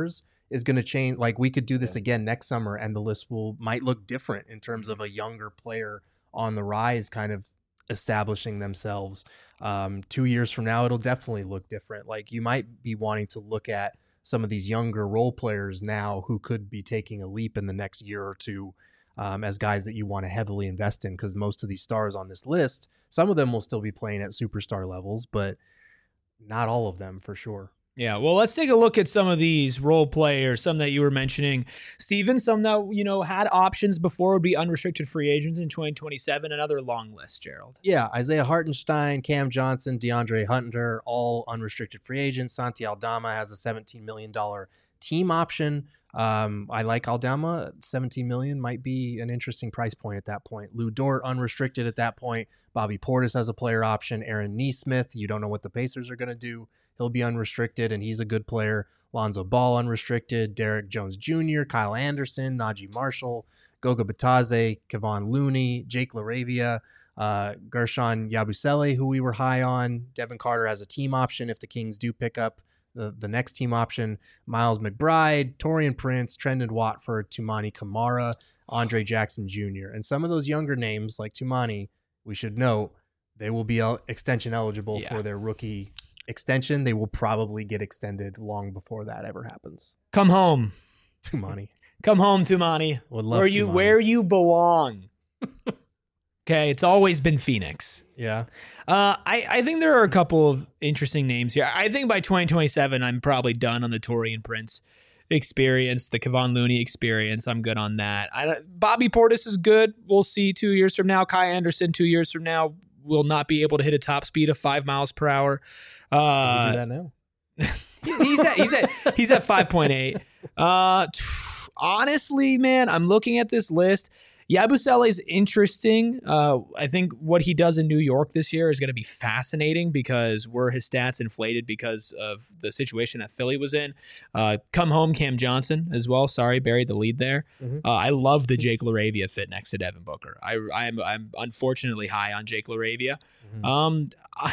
is going to change. Like we could do this yeah. again next summer, and the list will might look different in terms of a younger player on the rise, kind of establishing themselves. Um, two years from now, it'll definitely look different. Like you might be wanting to look at some of these younger role players now who could be taking a leap in the next year or two um, as guys that you want to heavily invest in, because most of these stars on this list, some of them will still be playing at superstar levels, but not all of them for sure. Yeah, well, let's take a look at some of these role players, some that you were mentioning, Steven, some that, you know, had options before would be unrestricted free agents in twenty twenty-seven, another long list, Gerald. Yeah, Isaiah Hartenstein, Cam Johnson, DeAndre Hunter, all unrestricted free agents. Santi Aldama has a seventeen million dollars team option. Um, I like Aldama. seventeen million dollars might be an interesting price point at that point. Lou Dort, unrestricted at that point. Bobby Portis has a player option. Aaron Nesmith, you don't know what the Pacers are going to do. He'll be unrestricted, and he's a good player. Lonzo Ball, unrestricted. Derek Jones Junior, Kyle Anderson, Najee Marshall, Goga Bitadze, Kevon Looney, Jake LaRavia, uh, Gershon Yabusele, who we were high on. Devin Carter has a team option if the Kings do pick up the, the next team option. Miles McBride, Taurean Prince, Trendon Watford, Tumani Kamara, Andre Jackson Junior And some of those younger names, like Tumani, we should note, they will be el- extension eligible yeah. for their rookie extension. They will probably get extended long before that ever happens. Come home, Tumani. Come home, Tumani. Would love where you Tumani. Where you belong. Okay, it's always been Phoenix. Yeah. Uh, I, I think there are a couple of interesting names here. I think by twenty twenty-seven, I'm probably done on the Taurean Prince experience, the Kevon Looney experience. I'm good on that. I, Bobby Portis is good. We'll see two years from now. Kai Anderson, two years from now, will not be able to hit a top speed of five miles per hour. Uh, do that now. he's at he's at he's at five point eight. Uh, honestly, man, I'm looking at this list. Yabusele is interesting. Uh, I think what he does in New York this year is going to be fascinating, because were his stats inflated because of the situation that Philly was in? Uh, come home, Cam Johnson as well. Sorry, buried the lead there. Mm-hmm. Uh, I love the Jake LaRavia fit next to Devin Booker. I, I'm I'm unfortunately high on Jake LaRavia. Mm-hmm. Um, uh,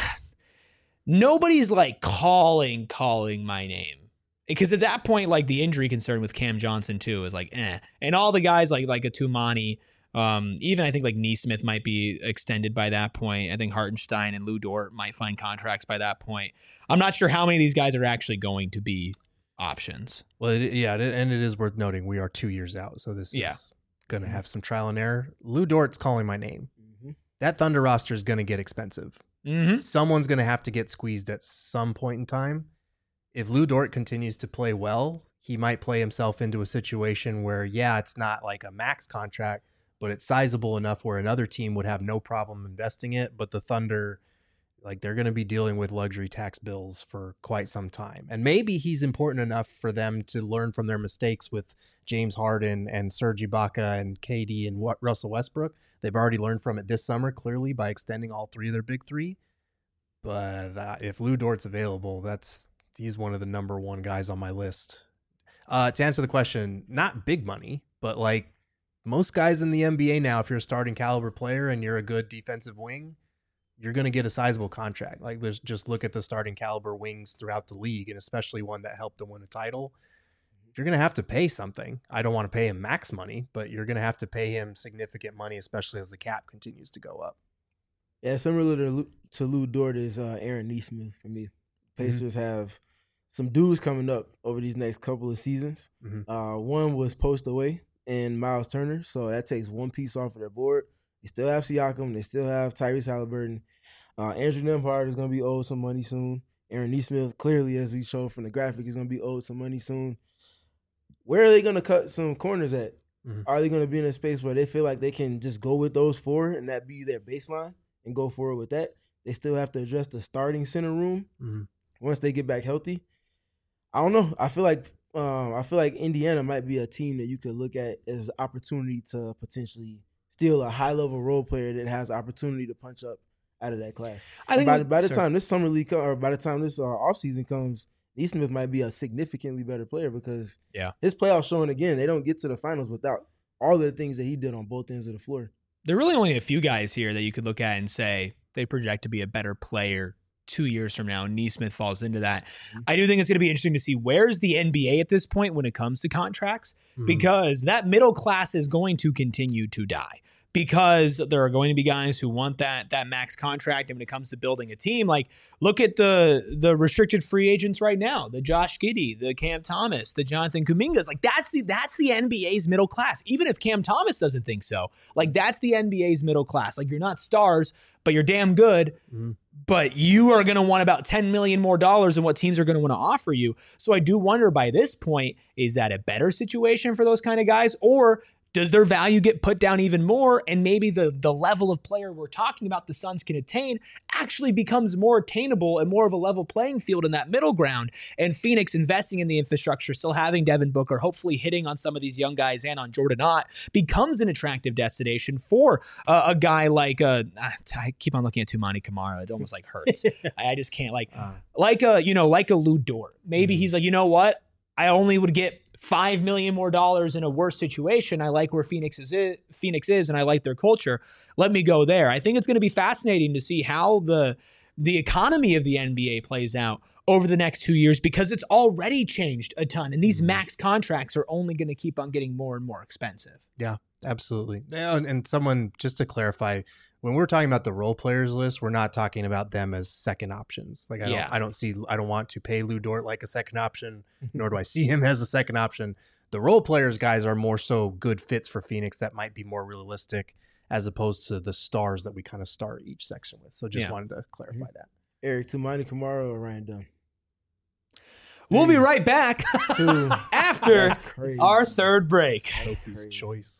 nobody's like calling calling my name. Because at that point, like the injury concern with Cam Johnson too is like, eh. And all the guys like like a Tumani, um, even I think like Nesmith might be extended by that point. I think Hartenstein and Lou Dort might find contracts by that point. I'm not sure how many of these guys are actually going to be options. Well, it, yeah, and it is worth noting we are two years out, so this yeah. is going to have some trial and error. Lou Dort's calling my name. Mm-hmm. That Thunder roster is going to get expensive. Mm-hmm. Someone's going to have to get squeezed at some point in time. If Lou Dort continues to play well, he might play himself into a situation where, yeah, it's not like a max contract, but it's sizable enough where another team would have no problem investing it. But the Thunder, like, they're going to be dealing with luxury tax bills for quite some time. And maybe he's important enough for them to learn from their mistakes with James Harden and Serge Ibaka and K D and Russell Westbrook. They've already learned from it this summer, clearly, by extending all three of their big three. But uh, if Lou Dort's available, that's... he's one of the number one guys on my list. Uh, to answer the question, not big money, but like most guys in the N B A now, if you're a starting caliber player and you're a good defensive wing, you're going to get a sizable contract. Like, let's just look at the starting caliber wings throughout the league, and especially one that helped them win a title. You're going to have to pay something. I don't want to pay him max money, but you're going to have to pay him significant money, especially as the cap continues to go up. Yeah, similar to, to Lou Dort is uh, Aaron Nesmith for me. Pacers mm-hmm. have some dudes coming up over these next couple of seasons. Mm-hmm. Uh, one was post away and Miles Turner, so that takes one piece off of their board. They still have Siakam. They still have Tyrese Halliburton. Uh, Andrew Nembhard is going to be owed some money soon. Aaron Nesmith, clearly, as we showed from the graphic, is going to be owed some money soon. Where are they going to cut some corners at? Mm-hmm. Are they going to be in a space where they feel like they can just go with those four and that be their baseline and go forward with that? They still have to address the starting center room mm-hmm. once they get back healthy. I don't know. I feel like um, I feel like Indiana might be a team that you could look at as an opportunity to potentially steal a high-level role player that has opportunity to punch up out of that class. I think by, by the sure. time this summer league come, or by the time this uh, offseason comes, Nesmith might be a significantly better player because yeah. his playoff showing again, they don't get to the finals without all of the things that he did on both ends of the floor. There are really only a few guys here that you could look at and say they project to be a better player two years from now. Neesmith falls into that. Mm-hmm. I do think it's going to be interesting to see where's the N B A at this point when it comes to contracts, mm-hmm. because that middle class is going to continue to die. Because there are going to be guys who want that that max contract, and when it comes to building a team, like look at the the restricted free agents right now, the Josh Giddey, the Cam Thomas, the Jonathan Kumingas, like that's the that's the N B A's middle class. Even if Cam Thomas doesn't think so, like that's the N B A's middle class. Like you're not stars, but you're damn good. Mm-hmm. But you are going to want about ten million more dollars than what teams are going to want to offer you. So I do wonder by this point, is that a better situation for those kind of guys, or does their value get put down even more, and maybe the the level of player we're talking about the Suns can attain actually becomes more attainable and more of a level playing field in that middle ground, and Phoenix investing in the infrastructure, still having Devin Booker, hopefully hitting on some of these young guys and on Jordan Ott, becomes an attractive destination for uh, a guy like, uh, I keep on looking at Toumani Camara. It almost like hurts. I, I just can't like, uh, like a, you know, like a Lou Dort. Maybe mm-hmm. he's like, you know what? I only would get five million more dollars in a worse situation. I like where Phoenix is, Phoenix is, and I like their culture. Let me go there. I think it's going to be fascinating to see how the the economy of the N B A plays out over the next two years, because it's already changed a ton, and these max contracts are only going to keep on getting more and more expensive. Yeah, absolutely. And, and someone, just to clarify, when we're talking about the role players list, we're not talking about them as second options. Like I yeah. don't, I don't see, I don't want to pay Lou Dort like a second option, nor do I see him as a second option. The role players guys are more so good fits for Phoenix that might be more realistic, as opposed to the stars that we kind of start each section with. So just yeah. wanted to clarify mm-hmm. that. Eric, Toumani Camara or Ryan Dunn? We'll be right back after our third break. Sophie's choice.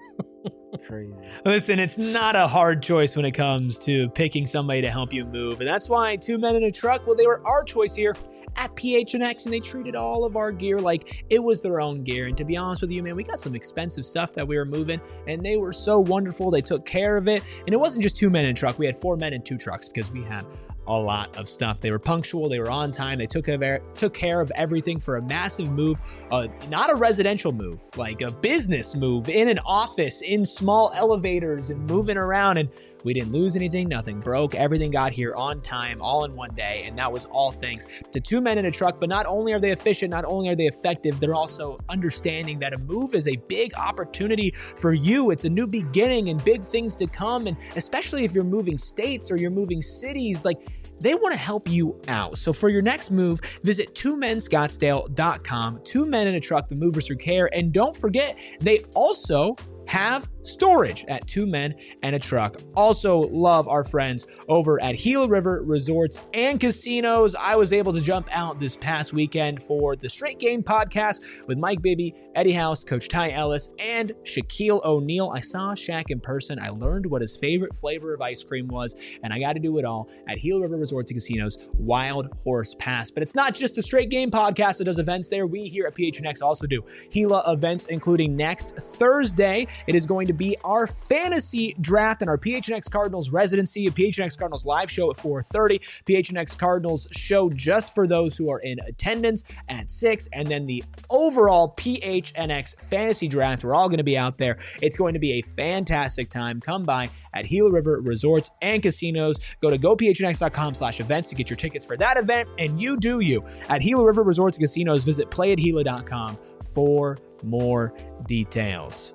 Crazy. Listen, it's not a hard choice when it comes to picking somebody to help you move. And that's why Two Men in a Truck, well, they were our choice here at P H N X, and they treated all of our gear like it was their own gear. And to be honest with you, man, we got some expensive stuff that we were moving, and they were so wonderful. They took care of it. And it wasn't just two men in a truck. We had four men in two trucks because we had a lot of stuff. They were punctual. They were on time. They took care of, took care of everything for a massive move, uh, not a residential move, like a business move in an office, in small elevators and moving around. And we didn't lose anything. Nothing broke. Everything got here on time, all in one day. And that was all thanks to Two Men in a Truck. But not only are they efficient, not only are they effective, they're also understanding that a move is a big opportunity for you. It's a new beginning and big things to come. And especially if you're moving states or you're moving cities, like, they want to help you out. So for your next move, visit two men scottsdale dot com. Two Men in a Truck, the movers who care. And don't forget, they also have storage at Two Men and a Truck. Also love our friends over at Gila River Resorts and Casinos. I was able to jump out this past weekend for the Straight Game podcast with Mike Bibby, Eddie House, Coach Ty Ellis, and Shaquille O'Neal. I saw Shaq in person. I learned what his favorite flavor of ice cream was, and I got to do it all at Gila River Resorts and Casinos Wild Horse Pass. But it's not just the Straight Game podcast that does events there. We here at P H N X also do Gila events, including next Thursday. It is going to be our fantasy draft and our P H N X Cardinals residency, a P H N X Cardinals live show at four thirty, P H N X Cardinals show just for those who are in attendance at six, and then the overall P H N X fantasy draft. We're all going to be out there. It's going to be a fantastic time. Come by at Gila River Resorts and Casinos. Go to go p h n x dot com slash events to get your tickets for that event, and you do you. At Gila River Resorts and Casinos, visit play at gila dot com for more details.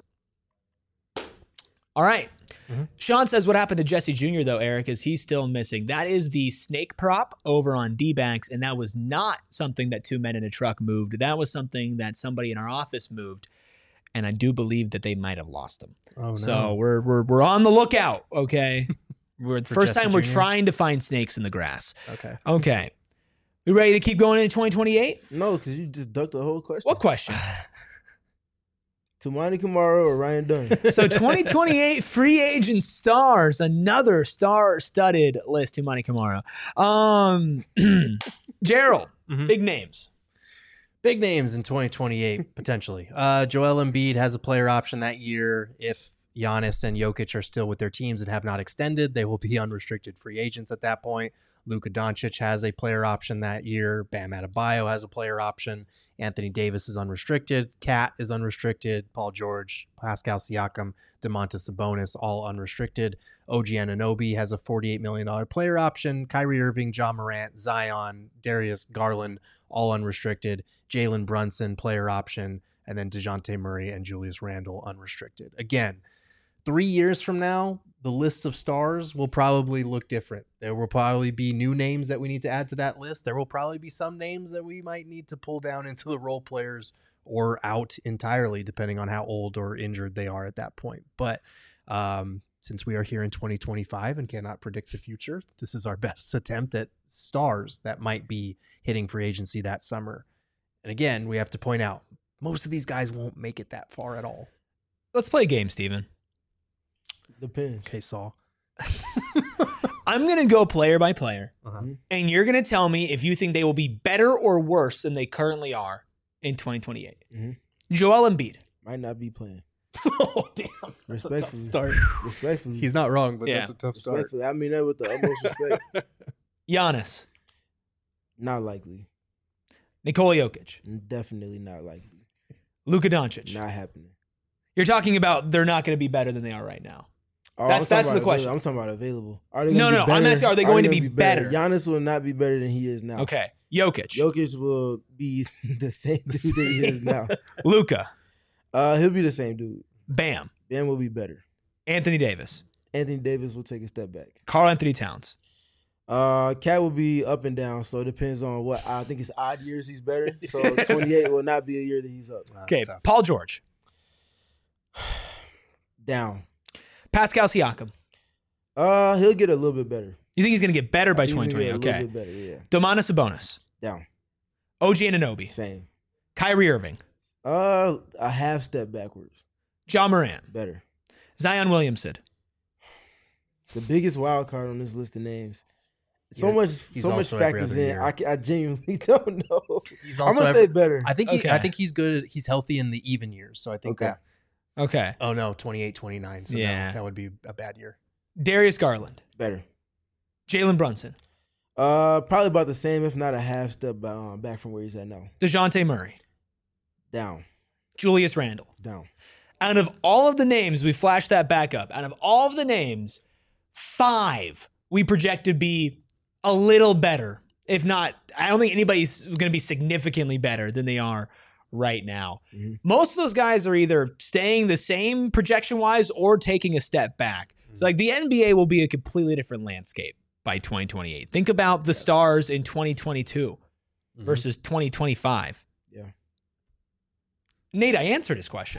All right. Mm-hmm. Sean says what happened to Jesse Junior, though, Eric, is he's still missing. That is the snake prop over on D-backs, and that was not something that Two Men in a Truck moved. That was something that somebody in our office moved, and I do believe that they might have lost him. Oh, no. So we're we're we're on the lookout, okay? We're the first Jesse time we're Junior trying to find snakes in the grass. Okay. Okay. We ready to keep going into twenty twenty-eight? No, because you just ducked the whole question. What question? Toumani Camara or Ryan Dunn? So twenty twenty-eight free agent stars, another star-studded list, Toumani Camara. Um, Gerald, mm-hmm. big names. Big names in twenty twenty-eight, potentially. Uh, Joel Embiid has a player option that year. If Giannis and Jokic are still with their teams and have not extended, they will be unrestricted free agents at that point. Luka Doncic has a player option that year. Bam Adebayo has a player option. Anthony Davis is unrestricted. Cat is unrestricted. Paul George, Pascal Siakam, Domantas Sabonis, all unrestricted. O G Anunoby has a forty-eight million dollars player option. Kyrie Irving, Ja Morant, Zion, Darius Garland, all unrestricted. Jalen Brunson, player option. And then DeJounte Murray and Julius Randle, unrestricted. Again, three years from now, the list of stars will probably look different. There will probably be new names that we need to add to that list. There will probably be some names that we might need to pull down into the role players or out entirely, depending on how old or injured they are at that point. But um, since we are here in twenty twenty-five and cannot predict the future, this is our best attempt at stars that might be hitting free agency that summer. And again, we have to point out, most of these guys won't make it that far at all. Let's play a game, Steven. Depends. Okay, Saul. I'm going to go player by player, Uh-huh. and you're going to tell me if you think they will be better or worse than they currently are in twenty twenty-eight. Mm-hmm. Joel Embiid. Might not be playing. Oh, damn. That's a tough Respectfully. start. Respectfully. He's not wrong, but Yeah. that's a tough start. Respectfully. I mean that with the utmost respect. Giannis. Not likely. Nikola Jokic. Definitely not likely. Luka Doncic. Not happening. You're talking about they're not going to be better than they are right now. Oh, That's- I'm that's talking the about question. available. I'm talking about available. Are they No, gonna no, be no. I'm better? asking, are they going to be better? better? Giannis will not be better than he is now. Okay. Jokic. Jokic will be the same dude that he is now. Luka. Uh, he'll be the same dude. Bam. Ben will be better. Anthony Davis. Anthony Davis will take a step back. Karl Anthony Towns. Uh, Cat will be up and down, so it depends on what. I think it's odd years he's better. So twenty-eight will not be a year that he's up. That's Okay. tough. Paul George. Down. Pascal Siakam. Uh, he'll get a little bit better. You think he's going to get better by He's gonna twenty twenty? get a Okay. little bit better, yeah. Domantas Sabonis. Down. O G Anunoby. Same. Kyrie Irving. Uh, a half step backwards. Ja Morant. Better. Zion Williamson. The biggest wild card on this list of names. So Yeah, much, he's so much also every factors other in. year. I, ca- I genuinely don't know. He's I'm also gonna every- say better. I think he, Okay. I think he's good. He's healthy in the even years. So I think Okay. that. Okay. Oh no, twenty-eight, twenty-nine. So Yeah. no, that would be a bad year. Darius Garland. Better. Jalen Brunson. Uh, probably about the same, if not a half step ba- uh, back from where he's at now. DeJounte Murray. Down. Julius Randle. Down. Out of all of the names, we flashed that back up. Out of all of the names, five we project to be a little better. If not, I don't think anybody's going to be significantly better than they are right now. Mhm. Most of those guys are either staying the same projection-wise or taking a step back. So like the N B A will be a completely different landscape by twenty twenty-eight. Think about the Yes. stars in twenty twenty-two Mhm. versus twenty twenty-five. Yeah. Nate, I answered his question.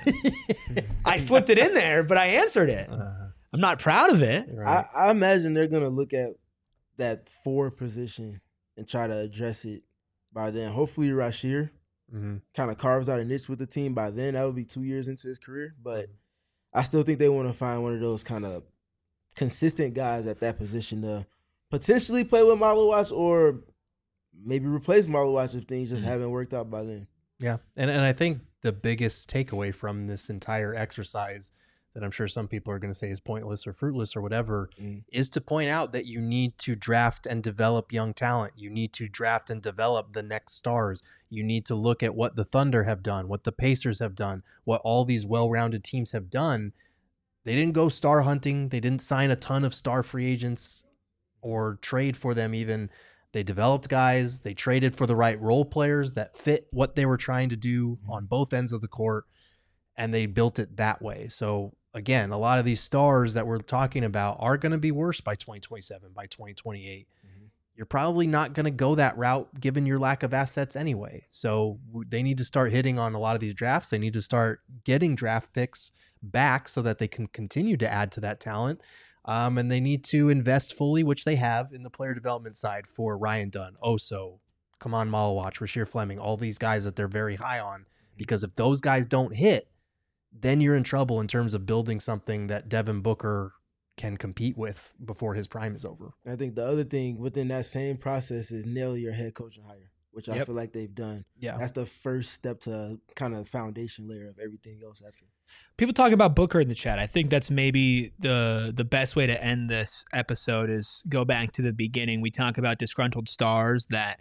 I slipped it in there, but I answered it. Uh, I'm not proud of it. right. I, I imagine they're gonna look at that four position and try to address it by then. Hopefully, Rashir Mhm. kind of carves out a niche with the team by then. That would be two years into his career, but I still think they want to find one of those kind of consistent guys at that position to potentially play with Marlo Watch or maybe replace Marlo Watch if things just Mhm. haven't worked out by then. Yeah, and and I think the biggest takeaway from this entire exercise that I'm sure some people are going to say is pointless or fruitless or whatever Mm. is to point out that you need to draft and develop young talent. You need to draft and develop the next stars. You need to look at what the Thunder have done, what the Pacers have done, what all these well-rounded teams have done. They didn't go star hunting. They didn't sign a ton of star free agents or trade for them even. They developed guys. They traded for the right role players that fit what they were trying to do on both ends of the court, and they built it that way. So again, a lot of these stars that we're talking about are going to be worse by twenty twenty-seven, by twenty twenty-eight. Mhm. You're probably not going to go that route given your lack of assets anyway. So w- they need to start hitting on a lot of these drafts. They need to start getting draft picks back so that they can continue to add to that talent. Um, and they need to invest fully, which they have in the player development side for Ryan Dunn, Oso, Kaman Malawach, Rasheer Fleming, all these guys that they're very high on. Because if those guys don't hit, then you're in trouble in terms of building something that Devin Booker can compete with before his prime is over. I think the other thing within that same process is nail your head coaching hire, which I Yep. feel like they've done. Yeah. That's the first step to kind of foundation layer of everything else after. People talk about Booker in the chat. I think that's maybe the the best way to end this episode is go back to the beginning. We talk about disgruntled stars that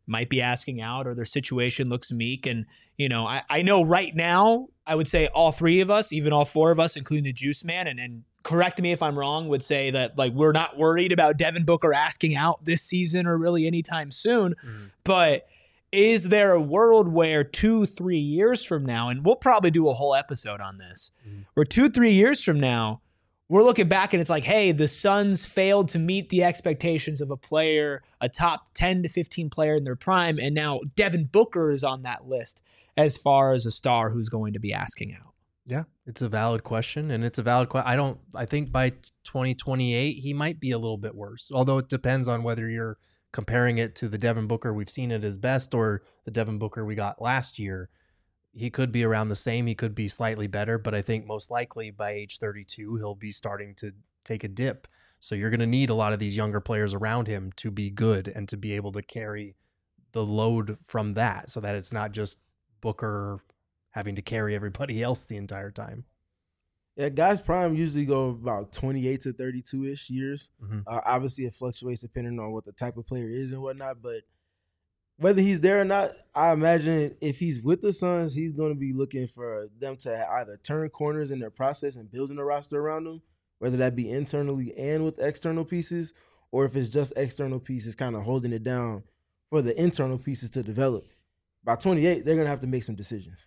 might be asking out or their situation looks meek. And, you know, I, I know right now, I would say all three of us, even all four of us, including the Juice Man, and, and correct me if I'm wrong, would say that like we're not worried about Devin Booker asking out this season or really anytime soon. Mm-hmm. But is there a world where two, three years from now, and we'll probably do a whole episode on this, mm-hmm. where two, three years from now, we're looking back and it's like, hey, the Suns failed to meet the expectations of a player, a top ten to fifteen player in their prime, and now Devin Booker is on that list as far as a star who's going to be asking out. Yeah, it's a valid question, and it's a valid question. I don't. I think by twenty twenty-eight he might be a little bit worse, although it depends on whether you're comparing it to the Devin Booker we've seen at his best or the Devin Booker we got last year. He could be around the same. He could be slightly better, but I think most likely by age thirty-two, he'll be starting to take a dip. So you're going to need a lot of these younger players around him to be good and to be able to carry the load from that so that it's not just Booker having to carry everybody else the entire time. Yeah, guys' prime usually go about twenty-eight to thirty-two-ish years. Mm-hmm. Uh, obviously, it fluctuates depending on what the type of player is and whatnot, but whether he's there or not, I imagine if he's with the Suns, he's going to be looking for them to either turn corners in their process and building a roster around them, whether that be internally and with external pieces, or if it's just external pieces kind of holding it down for the internal pieces to develop. By twenty-eight, they're going to have to make some decisions.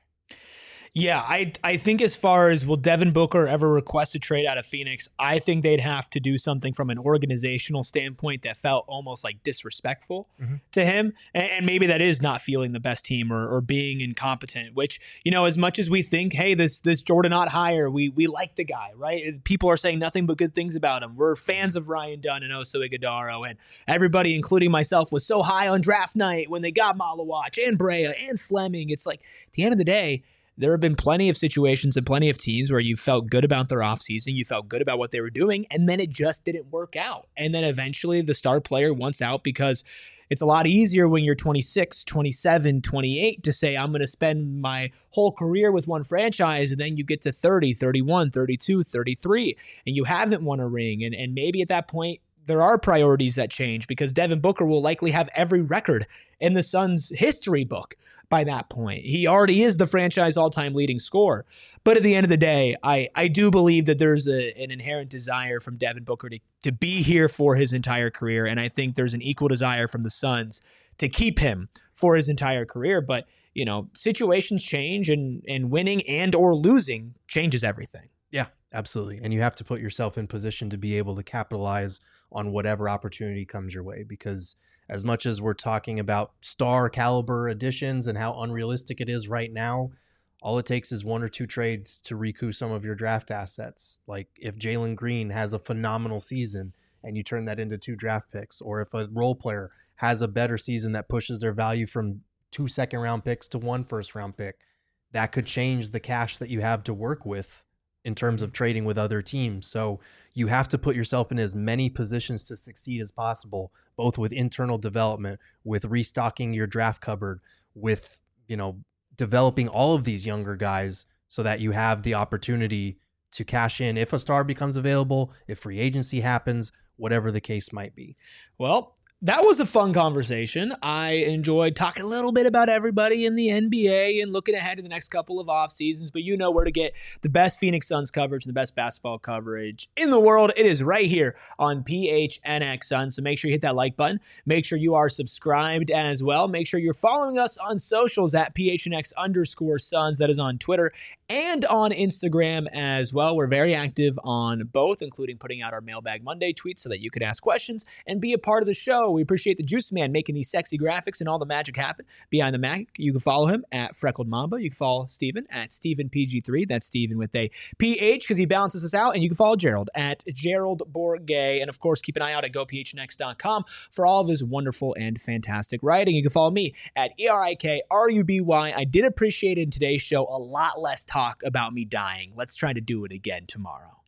Yeah, I I think as far as will Devin Booker ever request a trade out of Phoenix, I think they'd have to do something from an organizational standpoint that felt almost like disrespectful mm-hmm. to him. And, and maybe that is not feeling the best team or, or being incompetent, which, you know, as much as we think, hey, this this Jordan Ott hire, we we like the guy, right? People are saying nothing but good things about him. We're fans of Ryan Dunn and Oso Ighodaro, and everybody, including myself, was so high on draft night when they got Malawach and Brea and Fleming. It's like, at the end of the day, there have been plenty of situations and plenty of teams where you felt good about their offseason, you felt good about what they were doing, and then it just didn't work out. And then eventually the star player wants out because it's a lot easier when you're twenty-six, twenty-seven, twenty-eight to say, I'm going to spend my whole career with one franchise, and then you get to thirty, thirty-one, thirty-two, thirty-three, and you haven't won a ring. And, and maybe at that point, there are priorities that change because Devin Booker will likely have every record in the Suns' history book by that point. He already is the franchise all-time leading scorer. But at the end of the day, I, I do believe that there's a, an inherent desire from Devin Booker to, to be here for his entire career, and I think there's an equal desire from the Suns to keep him for his entire career. But, you know, situations change, and, and winning and or losing changes everything. Yeah, absolutely. And you have to put yourself in position to be able to capitalize on whatever opportunity comes your way, because as much as we're talking about star caliber additions and how unrealistic it is right now, all it takes is one or two trades to recoup some of your draft assets. Like if Jalen Green has a phenomenal season and you turn that into two draft picks, or if a role player has a better season that pushes their value from two second round picks to one first round pick, that could change the cash that you have to work with in terms of trading with other teams. So you have to put yourself in as many positions to succeed as possible, both with internal development, with restocking your draft cupboard, with, you know, developing all of these younger guys so that you have the opportunity to cash in if a star becomes available, if free agency happens, whatever the case might be. Well, that was a fun conversation. I enjoyed talking a little bit about everybody in the N B A and looking ahead to the next couple of off seasons, but you know where to get the best Phoenix Suns coverage and the best basketball coverage in the world. It is right here on P H N X Suns. So make sure you hit that like button. Make sure you are subscribed as well. Make sure you're following us on socials at P H N X underscore Suns. That is on Twitter and on Instagram as well. We're very active on both, including putting out our Mailbag Monday tweets so that you could ask questions and be a part of the show. We appreciate the Juice Man making these sexy graphics and all the magic happen behind the Mac. You can follow him at Freckled Mamba. You can follow Steven at Steven P G three. That's Steven with a P H because he balances us out. And you can follow Gerald at Gerald Bourget. And of course, keep an eye out at go P H N X dot com for all of his wonderful and fantastic writing. You can follow me at E R I K R U B Y. I did appreciate in today's show a lot less talk about me dying. Let's try to do it again tomorrow.